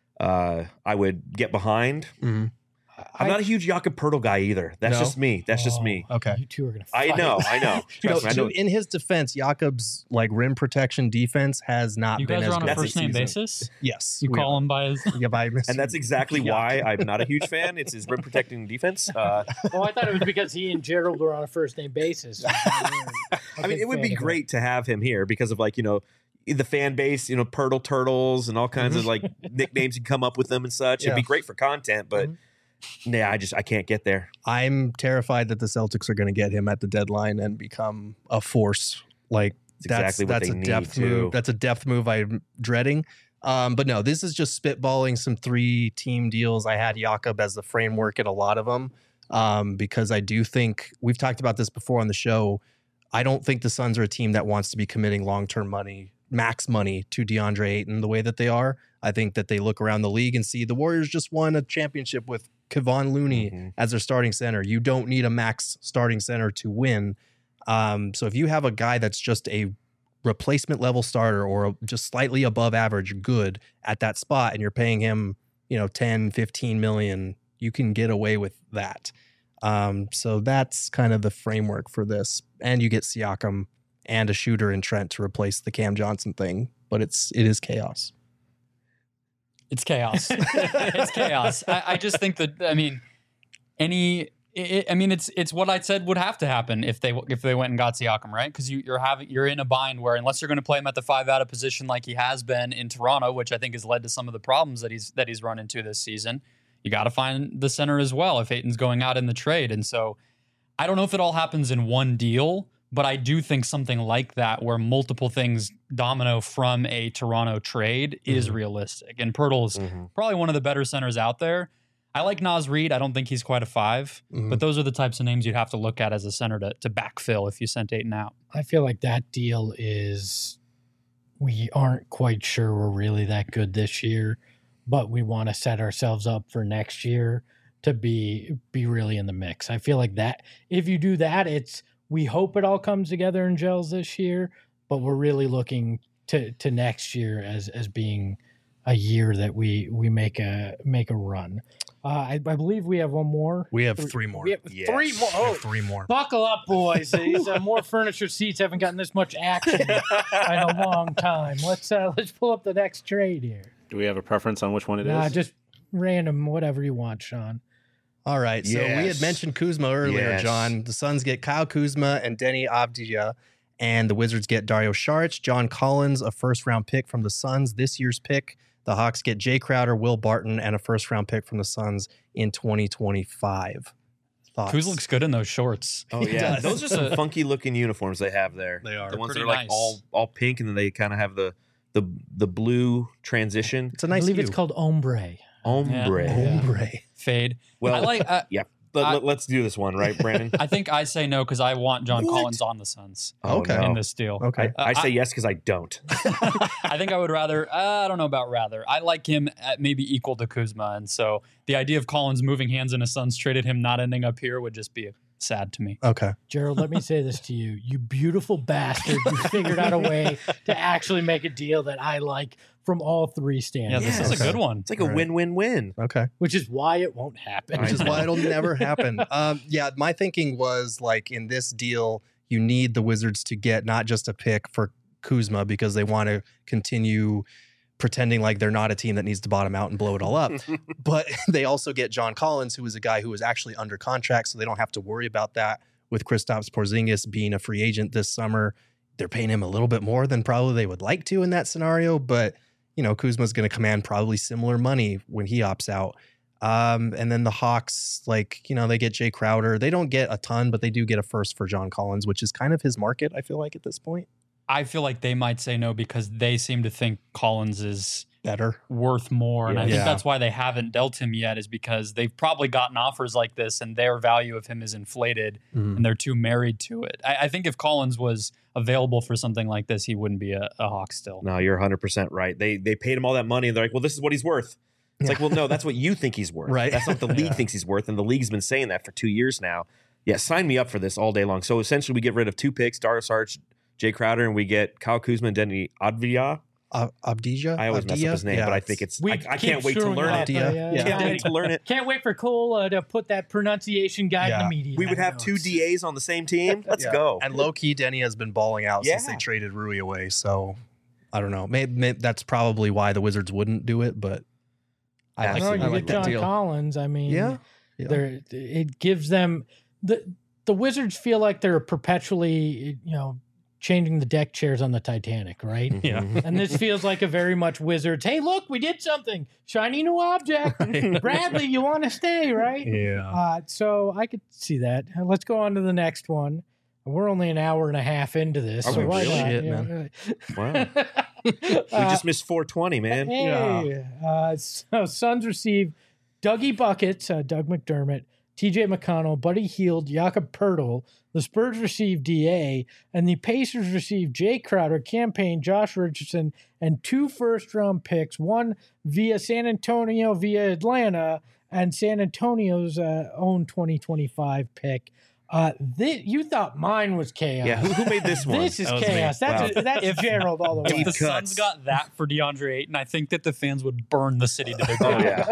I would get behind. Mhm. I'm not a huge Jakob Poeltl guy either. That's No? just me. That's just me. Okay. You two are going to I fight. know. Trust me, I know. In his defense, Jakob's like rim protection defense has not You been guys as are on a good. That's first name season. basis. Yes. You we call are. him by his. Yeah, by Mr. And that's exactly why I'm not a huge fan. It's his rim protecting defense. Oh, I thought it was because he and Gerald were on a first name basis. I mean, it would be great to have him here because of, like, the fan base, Pirtle Turtles and all kinds of like nicknames you can come up with them and such. It'd be Yeah. great for content, but yeah, I can't get there. I'm terrified that the Celtics are going to get him at the deadline and become a force. Like It's exactly what that's they a need, depth too. move. That's a depth move I'm dreading. But no, this is just spitballing some 3-team deals. I had Jakob as the framework in a lot of them because I do think we've talked about this before on the show. I don't think the Suns are a team that wants to be committing long-term money, max money to DeAndre Ayton the way that they are. I think that they look around the league and see the Warriors just won a championship with Kevon Looney as their starting center. You don't need a max starting center to win. So if you have a guy that's just a replacement level starter or just slightly above average good at that spot and you're paying him 10, 15 million, you can get away with that. So that's kind of the framework for this. And you get Siakam and a shooter in Trent to replace the Cam Johnson thing, but it is chaos. It's chaos. It's chaos. I just think that, it's what I said would have to happen if they went and got Siakam, right? Because you're in a bind where unless you're going to play him at the 5 out of position like he has been in Toronto, which I think has led to some of the problems that he's run into this season, you got to find the center as well if Ayton's going out in the trade. And so I don't know if it all happens in one deal, but I do think something like that where multiple things domino from a Toronto trade is realistic. And Pirtle's probably one of the better centers out there. I like Naz Reid. I don't think he's quite a 5, but those are the types of names you'd have to look at as a center to backfill if you sent Ayton out. I feel like that deal we aren't quite sure we're really that good this year, but we want to set ourselves up for next year to be really in the mix. I feel like that if you do that, we hope it all comes together and gels this year, but we're really looking to next year as being a year that we make a run. I believe we have one more. We have 3 more. We have 3 more. Oh, 3 more. Buckle up, boys. These more furniture seats haven't gotten this much action in a long time. Let's pull up the next trade here. Do we have a preference on which one it is? Just random, whatever you want, Sean. All right. So we had mentioned Kuzma earlier, John. The Suns get Kyle Kuzma and Denny Avdija, and the Wizards get Dario Saric, John Collins, a first-round pick from the Suns, this year's pick. The Hawks get Jay Crowder, Will Barton, and a first-round pick from the Suns in 2025. Thoughts? Kuz looks good in those shorts. Oh, yeah. Those are some funky-looking uniforms they have there. They are. The ones that Pretty are like nice. all pink, and then they kind of have the blue transition. It's a nice I believe hue. it's called ombre. Ombre. Yeah. Ombre. Fade. Well, I like. yeah. Let's do this one, right, Brandon? I think I say no because I want John Collins on the Suns Okay. no. in this deal. Okay. I say yes because I don't. I think I would rather. I don't know about rather. I like him at maybe equal to Kuzma, and so the idea of Collins moving hands in a Suns traded him not ending up here would just be sad to me. Okay. Gerald, let me say this to you. You beautiful bastard. You figured out a way to actually make a deal that I like from all 3 stands. Yeah, this is a good one. It's like a Right. win-win-win. Okay. Which is why it won't happen. Which is why it'll never happen. My thinking was like in this deal, you need the Wizards to get not just a pick for Kuzma because they want to continue pretending like they're not a team that needs to bottom out and blow it all up. But they also get John Collins, who is a guy who is actually under contract, so they don't have to worry about that with Kristaps Porzingis being a free agent this summer. They're paying him a little bit more than probably they would like to in that scenario, but Kuzma's going to command probably similar money when he opts out. And then the Hawks, they get Jay Crowder. They don't get a ton, but they do get a first for John Collins, which is kind of his market, I feel like, at this point. I feel like they might say no because they seem to think Collins is Better. worth more. And I think Yeah. that's why they haven't dealt him yet, is because they've probably gotten offers like this and their value of him is inflated and they're too married to it. I think if Collins was available for something like this, he wouldn't be a Hawk still. No, you're 100% right. They paid him all that money, and they're like, well, this is what he's worth. It's like, well, no, that's what you think he's worth. Right. That's not what the league thinks he's worth, and the league's been saying that for 2 years now. Yeah, sign me up for this all day long. So essentially, we get rid of 2 picks, Dario Saric, Jay Crowder, and we get Kyle Kuzma and Denny Avdija. Avdija? I always mess up his name, Yeah, but I think it's. We I keep can't wait to screwing learn up, it. Yeah. Can't wait to learn it. Can't wait for Cole to put that pronunciation guide in the media. We would have 2 DAs on the same team. Let's Yeah. go. And low-key, Denny has been balling out since they traded Rui away. So, I don't know. Maybe that's probably why the Wizards wouldn't do it, but I like, No, you I like get that John deal. Collins. I mean, Yeah. it gives them the Wizards feel like they're perpetually, changing the deck chairs on the Titanic, right? Yeah. And this feels like a very much Wizards. Hey, look, we did something. Shiny new object. Bradley, you want to stay, right? Yeah. So I could see that. Let's go on to the next one. We're only an hour and a half into this. Are so we why really? not? Shit, Yeah. man. Wow. We just missed 420, man. Hey, so Suns receive Dougie Buckets, Doug McDermott, TJ McConnell, Buddy Hield, Jakob Pertl. The Spurs receive DA, and the Pacers receive Jay Crowder, Campaign, Josh Richardson, and 2 first-round picks, one via San Antonio, via Atlanta, and San Antonio's own 2025 pick. You thought mine was chaos. Yeah, who made this one? This is That was chaos. me. That's Gerald all the way. If the Deep Suns cuts. got that for DeAndre Ayton, I think that the fans would burn the city to the Oh ground. yeah.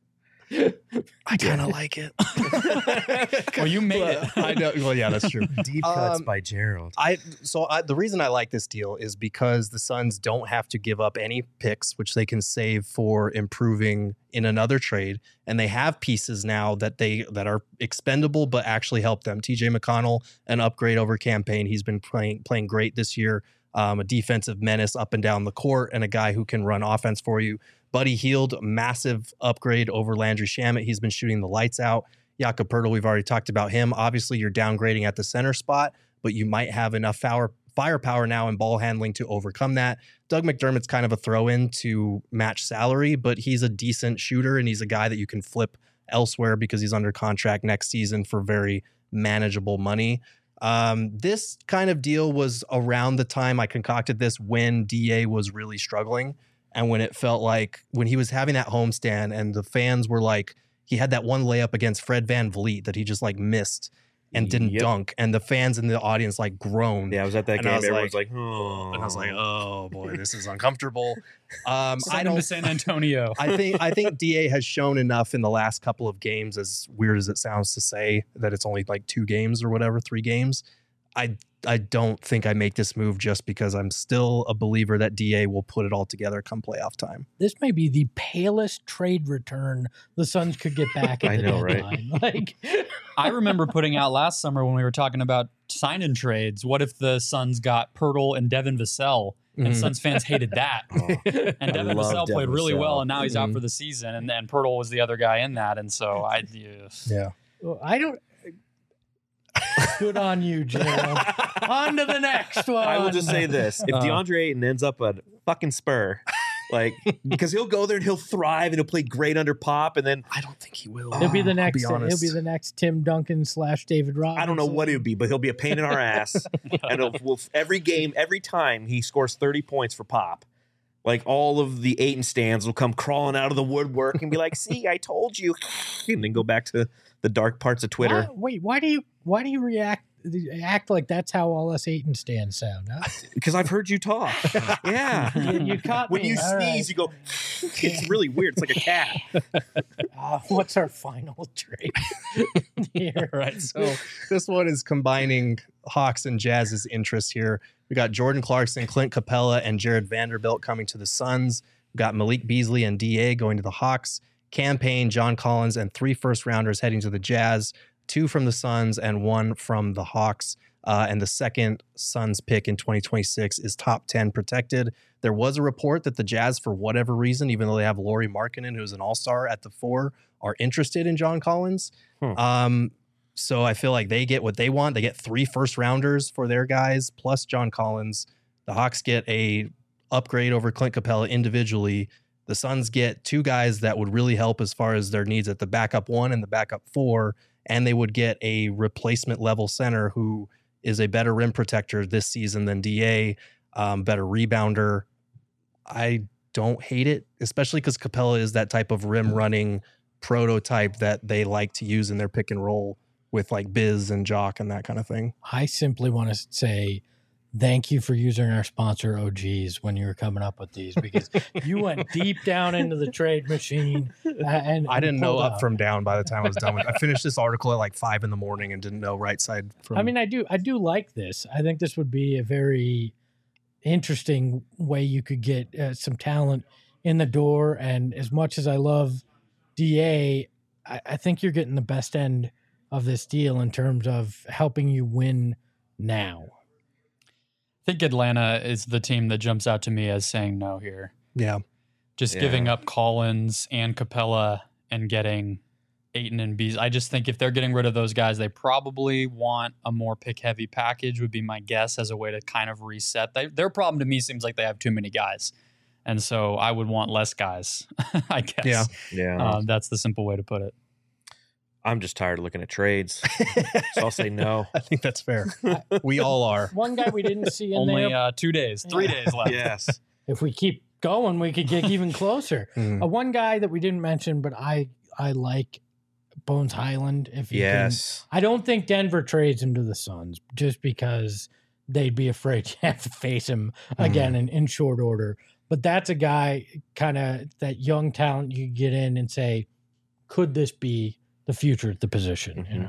I kind of like it. Well, you made it. I know. Well, yeah, that's true. Deep cuts by Gerald. The reason I like this deal is because the Suns don't have to give up any picks, which they can save for improving in another trade, and they have pieces now that are expendable but actually help them. TJ McConnell, an upgrade over campaign. He's been playing great this year. A defensive menace up and down the court, and a guy who can run offense for you. Buddy Hield, massive upgrade over Landry Shamet. He's been shooting the lights out. Jakob Poeltl, we've already talked about him. Obviously, you're downgrading at the center spot, but you might have enough firepower now and ball handling to overcome that. Doug McDermott's kind of a throw-in to match salary, but he's a decent shooter, and he's a guy that you can flip elsewhere because he's under contract next season for very manageable money. This kind of deal was around the time I concocted this when DA was really struggling. And when it felt like when he was having that homestand and the fans were like, he had that one layup against Fred VanVleet that he just like missed and didn't dunk. And the fans in the audience like groaned. Yeah, I was at that And game. I was Everyone's like- like, oh. And I was like, oh boy, this is uncomfortable. I Send him to San Antonio. I think DA has shown enough in the last couple of games, as weird as it sounds to say that it's only like 2 games or whatever, 3 games. I don't think I make this move just because I'm still a believer that DA will put it all together come playoff time. This may be the palest trade return the Suns could get back at I the know, right? deadline. Like, I remember putting out last summer when we were talking about sign-in trades. What if the Suns got Poeltl and Devin Vassell? And Mhm. Suns fans hated that. And Devin love Vassell played Devin really well, Vassell. and now he's out Mhm. for the season. And Poeltl was the other guy in that. And so Yeah. I don't. Good on you, Gerald. On to the next one. I will just say this: if DeAndre Ayton ends up a fucking Spur, like because he'll go there and he'll thrive and he'll play great under Pop, and then I don't think he will. He'll be the I'll next. He'll honest. be the next Tim Duncan / David Robinson. I don't know what it would be, but he'll be a pain in our ass. And every game, every time he scores 30 points for Pop, like all of the Ayton stands will come crawling out of the woodwork and be like, "See, I told you," and then go back to the dark parts of Twitter. Why do you act like that's how all us Ayton stands sound? Huh? Because I've heard you talk. Yeah. You caught When me. you All sneeze, you go, it's really weird. It's like a cat. What's our final trade here? Right. So this one is combining Hawks and Jazz's interests here. We got Jordan Clarkson, Clint Capella, and Jared Vanderbilt coming to the Suns. We got Malik Beasley and DA going to the Hawks. Campaign, John Collins, and 3 first-rounders heading to the Jazz. 2 from the Suns and 1 from the Hawks. And the second Suns pick in 2026 is top 10 protected. There was a report that the Jazz, for whatever reason, even though they have Lauri Markkanen, who's an all-star at the 4, are interested in John Collins. So I feel like they get what they want. They get 3 first-rounders for their guys, plus John Collins. The Hawks get a upgrade over Clint Capella individually. The Suns get 2 guys that would really help as far as their needs at the backup 1 and the backup 4. And they would get a replacement level center who is a better rim protector this season than DA, better rebounder. I don't hate it, especially because Capella is that type of rim running prototype that they like to use in their pick and roll with like Biz and Jock and that kind of thing. I simply want to say thank you for using our sponsor OGs when you were coming up with these, because you went deep down into the trade machine. And I didn't know pulled up out. from down by the time I was done with it. I finished this article at like 5 a.m. and didn't know right side from. I mean, I do like this. I think this would be a very interesting way you could get some talent in the door. And as much as I love DA, I think you're getting the best end of this deal in terms of helping you win now. I think Atlanta is the team that jumps out to me as saying no here. Yeah. Just giving up Collins and Capella and getting Ayton and Beasley. I just think if they're getting rid of those guys, they probably want a more pick-heavy package, would be my guess, as a way to kind of reset. Their problem to me seems like they have too many guys. And so I would want less guys, I guess. Yeah. That's the simple way to put it. I'm just tired of looking at trades. So I'll say no. I think that's fair. We all are. One guy we didn't see in Only there. 2 days, 3 days left. Yes. If we keep going, we could get even closer. Mm. One guy that we didn't mention, but I like Bones Highland. If you Yes. can. I don't think Denver trades him to the Suns just because they'd be afraid to have to face him again in short order. But that's a guy, kind of that young talent you get in and say, could this be the future at the position? You know,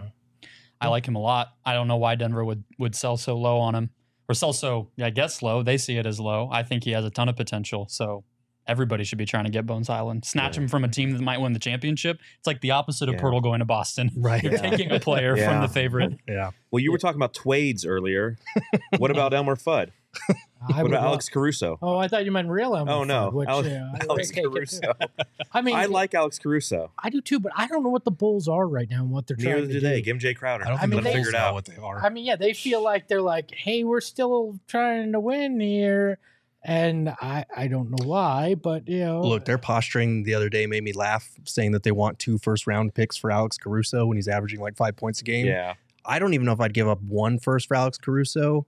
I like him a lot. I don't know why Denver would sell so low on him, or sell so, I guess, low. They see it as low. I think he has a ton of potential. So everybody should be trying to get Bones Highland. Snatch him from a team that might win the championship. It's like the opposite of Pirtle going to Boston. Right. You're taking a player from the favorite. Yeah. Well, you were talking about Twades earlier. What about Elmer Fudd? What about Alex Caruso? Oh, I thought you meant real Elmer. Oh, no. Fudd, which, Alex Caruso. I mean, I like Alex Caruso. I do too, but I don't know what the Bulls are right now and what they're trying Neither to do do. they. Give him Jay Crowder. I don't think mean, the they Bulls figured know out what they are. I mean, yeah, they feel like they're like, hey, we're still trying to win here. And I don't know why, but, you know. Look, their posturing the other day made me laugh, saying that they want 2 first-round picks for Alex Caruso when he's averaging like 5 points a game. Yeah. I don't even know if I'd give up 1 first for Alex Caruso.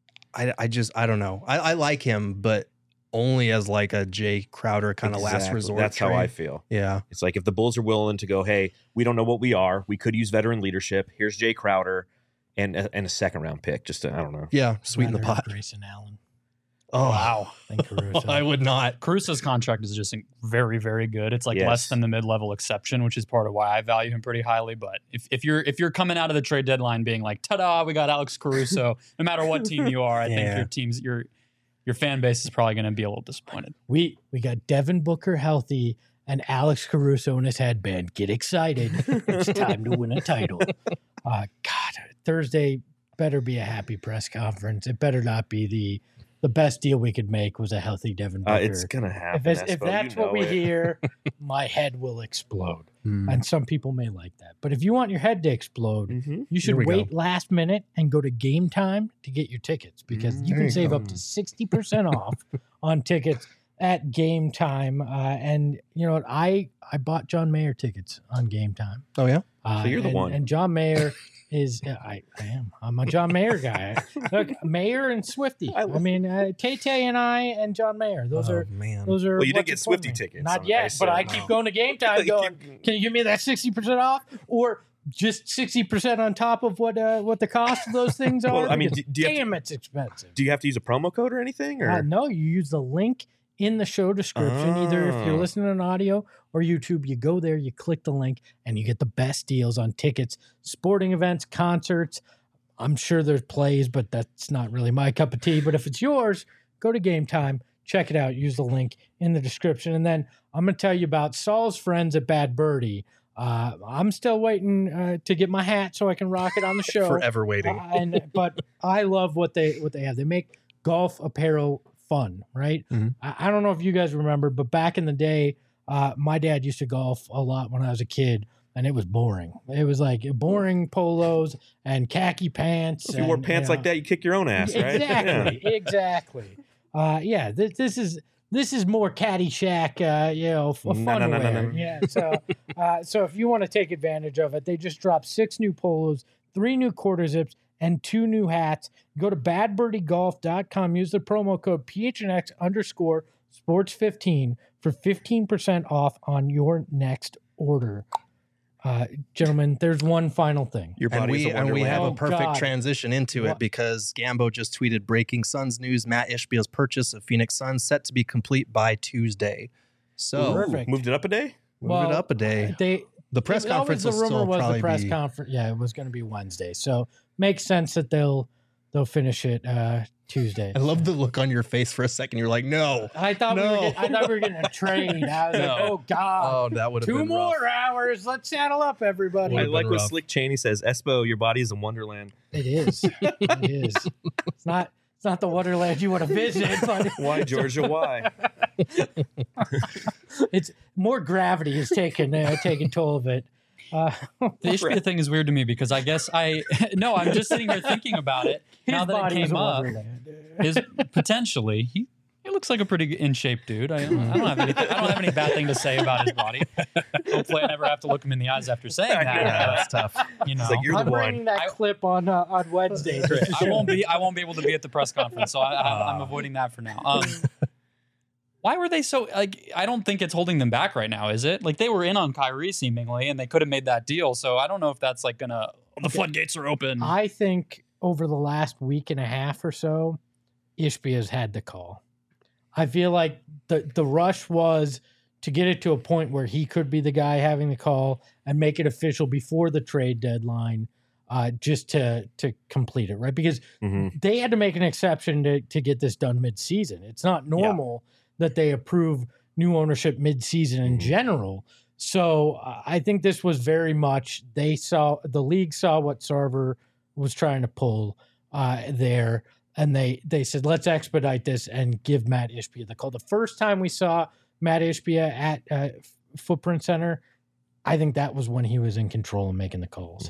I don't know. I like him, but only as like a Jay Crowder kind of last resort. That's how trade. I feel. Yeah. It's like if the Bulls are willing to go, hey, we don't know what we are. We could use veteran leadership. Here's Jay Crowder and a second-round pick. Just to, I don't know. Yeah, sweeten the Rather pot. Grayson Allen. Oh, Wow. Than Caruso. I would not. Caruso's contract is just very, very good. It's like Yes. less than the mid-level exception, which is part of why I value him pretty highly. But if you're coming out of the trade deadline being like, ta-da, we got Alex Caruso, no matter what team you are, I think your fan base is probably going to be a little disappointed. We got Devin Booker healthy and Alex Caruso in his headband. Get excited. It's time to win a title. God, Thursday better be a happy press conference. It better not be the best deal we could make was a healthy Devin Booker. It's going to happen. If that's what we hear, my head will explode. And some people may like that. But if you want your head to explode, you should wait last minute and go to Game Time to get your tickets because you can save up to 60% off on tickets at Game Time. And you know what? I bought John Mayer tickets on Game Time. Oh, yeah? So you're the one. And John Mayer is I am. I'm a John Mayer guy. Look, Mayer and Swifty. I mean, Tay and I and John Mayer. Those are. Well, you did what's get Swifty tickets. Not yet, but I keep going to Game Time going, can you give me that 60% off? Or just 60% on top of what the cost of those things are? Well, I mean, Because do you have damn, it's expensive. Do you have to use a promo code or anything? Or No, you use the link in the show description. Either if you're listening on audio or YouTube, you go there, you click the link, and you get the best deals on tickets, sporting events, concerts. I'm sure there's plays, but that's not really my cup of tea. But if it's yours, go to Game Time, check it out, use the link in the description. And then I'm going to tell you about Saul's friends at Bad Birdie. I'm still waiting to get my hat so I can rock it on the show. Forever waiting. But I love what they have. They make golf apparel fun, right? I don't know if you guys remember, but back in the day, my dad used to golf a lot when I was a kid, and it was boring. It was like boring polos and khaki pants. if you wore pants like that, you kick your own ass, right? Exactly, exactly. This is more Caddyshack, fun wear. No. Yeah, so if you want to take advantage of it, they just dropped 6 new polos, 3 new quarter zips, and 2 new hats. Go to badbirdiegolf.com. Use the promo code PHNX_sports15 for 15% off on your next order. Gentlemen, there's one final thing. Your And body's a we have a Oh, perfect God. transition into it because Gambo just tweeted breaking Suns news. Matt Ishbiel's purchase of Phoenix Suns set to be complete by Tuesday. So Perfect. moved it up a day. move it up a day. The press conference will the rumor still was probably the press be. conference. Yeah, it was going to be Wednesday. So makes sense that they'll finish it Tuesday. I love the look on your face for a second. You're like, no. I thought we were getting a trade. I was like, oh God. Oh, that would have 2 been more rough. hours. Let's saddle up, everybody. I Would've like been what rough. Slick Cheney says. Espo, your body is a wonderland. It is. It is. It's not the Wonderland you want to visit, but Why, Georgia? Why? it's more gravity is taking toll of it. The Ishbia thing is weird to me because I guess I'm just sitting here thinking about it. Now His that it body is came a up, Wonderland. is potentially he looks like a pretty in shape dude. I don't have any bad thing to say about his body. Hopefully, I never have to look him in the eyes after saying that. Yeah, that's tough. You know, It's like you're I'm the bringing one. that clip on Wednesday. I won't be able to be at the press conference, so I'm avoiding that for now. Why were they so like? I don't think it's holding them back right now, is it? Like they were in on Kyrie seemingly, and they could have made that deal. So I don't know if that's like gonna. The floodgates are open. I think over the last week and a half or so, Ishbia's had the call. I feel like the rush was to get it to a point where he could be the guy having the call and make it official before the trade deadline, just to complete it, right? Because they had to make an exception to get this done mid-season. It's not normal that they approve new ownership mid-season in general. So I think this was very much the league saw what Sarver was trying to pull there, and they said, let's expedite this and give Matt Ishbia the call. The first time we saw Matt Ishbia at Footprint Center, I think that was when he was in control and making the calls.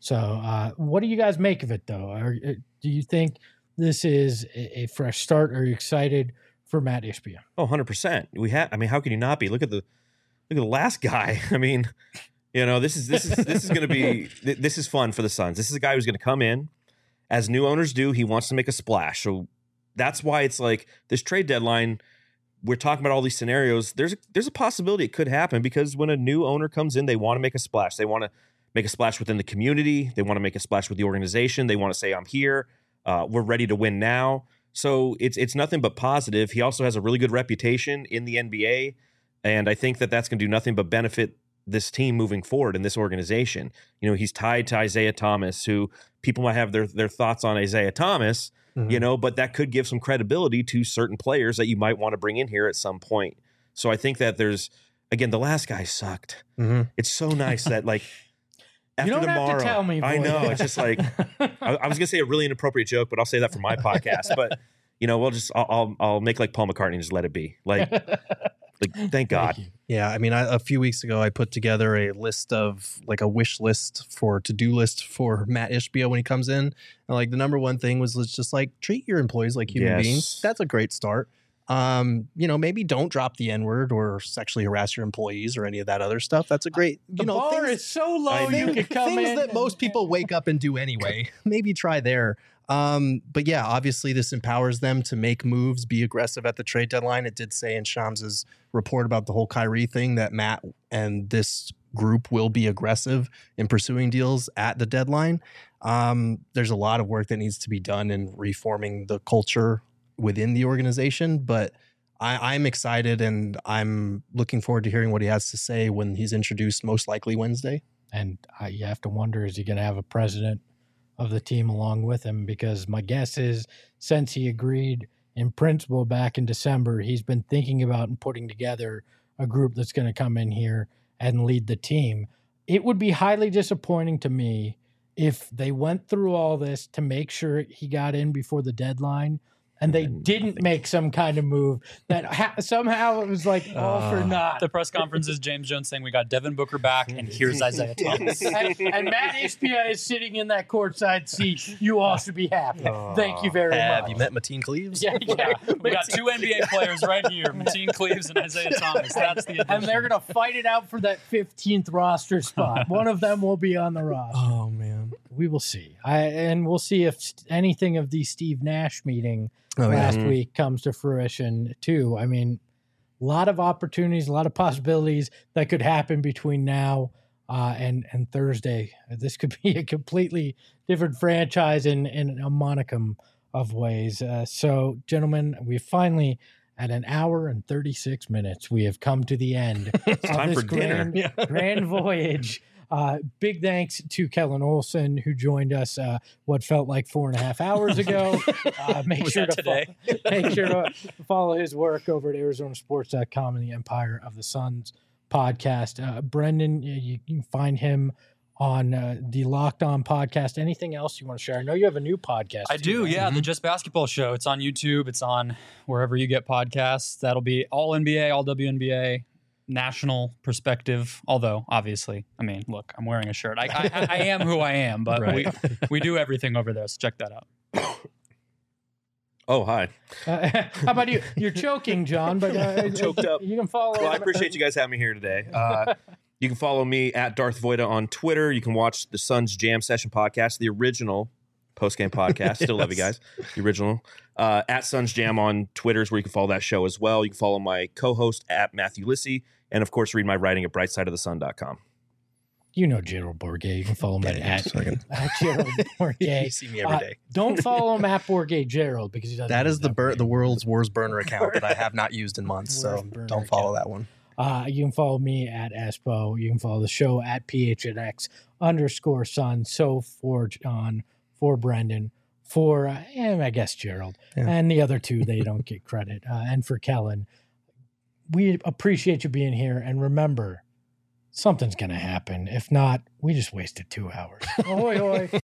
So what do you guys make of it, though? Do you think this is a fresh start? Are you excited for Matt Ishbia? Oh, 100%. I mean, how can you not be? Look at the last guy. I mean, this is going to be this is fun for the Suns. This is a guy who's going to come in, as new owners do. He wants to make a splash. So that's why it's like this trade deadline. We're talking about all these scenarios. There's a possibility it could happen because when a new owner comes in, they want to make a splash. They want to make a splash within the community. They want to make a splash with the organization. They want to say, I'm here. We're ready to win now. So it's nothing but positive. He also has a really good reputation in the NBA. And I think that that's going to do nothing but benefit this team moving forward in this organization. He's tied to Isaiah Thomas, who people might have their thoughts on Isaiah Thomas, but that could give some credibility to certain players that you might want to bring in here at some point. So I think that again, the last guy sucked. It's so nice that after you don't tomorrow, have to tell me, boy. I know. It's just like, I was going to say a really inappropriate joke, but I'll say that for my podcast. But, I'll make like Paul McCartney and just let it be. Thank God. Yeah, I mean, a few weeks ago, I put together a list of a wish list to-do list for Matt Ishbia when he comes in. And the number one thing was just treat your employees like human beings. That's a great start. Maybe don't drop the N-word or sexually harass your employees or any of that other stuff. That's a great, the bar is so low you could come things in. That most people wake up and do anyway. Maybe try there. But yeah, obviously this empowers them to make moves, be aggressive at the trade deadline. It did say in Shams' report about the whole Kyrie thing that Matt and this group will be aggressive in pursuing deals at the deadline. There's a lot of work that needs to be done in reforming the culture within the organization, but I'm excited and I'm looking forward to hearing what he has to say when he's introduced, most likely Wednesday. And you have to wonder, is he going to have a president of the team along with him? Because my guess is since he agreed in principle back in December, he's been thinking about and putting together a group that's going to come in here and lead the team. It would be highly disappointing to me if they went through all this to make sure he got in before the deadline and they didn't make some kind of move that somehow it was all for naught. The press conference is James Jones saying we got Devin Booker back and here's Isaiah Thomas. and Matt Ishbia is sitting in that courtside seat. You all should be happy. Thank you very much. Have you met Mateen Cleaves? Yeah. We got two NBA players right here, Mateen Cleaves and Isaiah Thomas. That's the addition. And they're going to fight it out for that 15th roster spot. One of them will be on the roster. Oh, man. We will see. And we'll see if anything of the Steve Nash meeting last week comes to fruition too. I mean, a lot of opportunities, a lot of possibilities that could happen between now and Thursday. This could be a completely different franchise in a monicum of ways. So, gentlemen, we finally, at an hour and 36 minutes, we have come to the end of time this for dinner. grand voyage. Big thanks to Kellen Olson, who joined us what felt like 4.5 hours ago. Make sure to follow his work over at ArizonaSports.com and the Empire of the Suns podcast. Brendan, you can find him on the Locked On podcast. Anything else you want to share? I know you have a new podcast. I do, yeah. The Just Basketball Show. It's on YouTube. It's on wherever you get podcasts. That'll be all NBA, all WNBA. National perspective, although obviously, I mean, look, I'm wearing a shirt. I am who I am, but we do everything over there, so check that out. Oh, hi. How about you? You're choking, John, but I'm choked up. You can follow. Well, I appreciate you guys having me here today. You can follow me at Darth Voida on Twitter. You can watch the Suns Jam Session podcast, the original post-game podcast. Still love you guys. The original. At Suns Jam on Twitter is where you can follow that show as well. You can follow my co-host at Matthew Lissy, and of course, read my writing at brightsideofthesun.com. You know Gerald Bourget. You can follow him at Gerald Bourget. You see me every day. Don't follow him at Bourget Gerald because he doesn't. That is the world's worst burner account that I have not used in months. So don't follow that one. You can follow me at Espo. You can follow the show at PHNX_Sun. So for John, for Brendan, for and I guess Gerald, and the other two, they don't get credit. And for Kellen, we appreciate you being here. And remember, something's going to happen. If not, we just wasted 2 hours. Ahoy, hoy.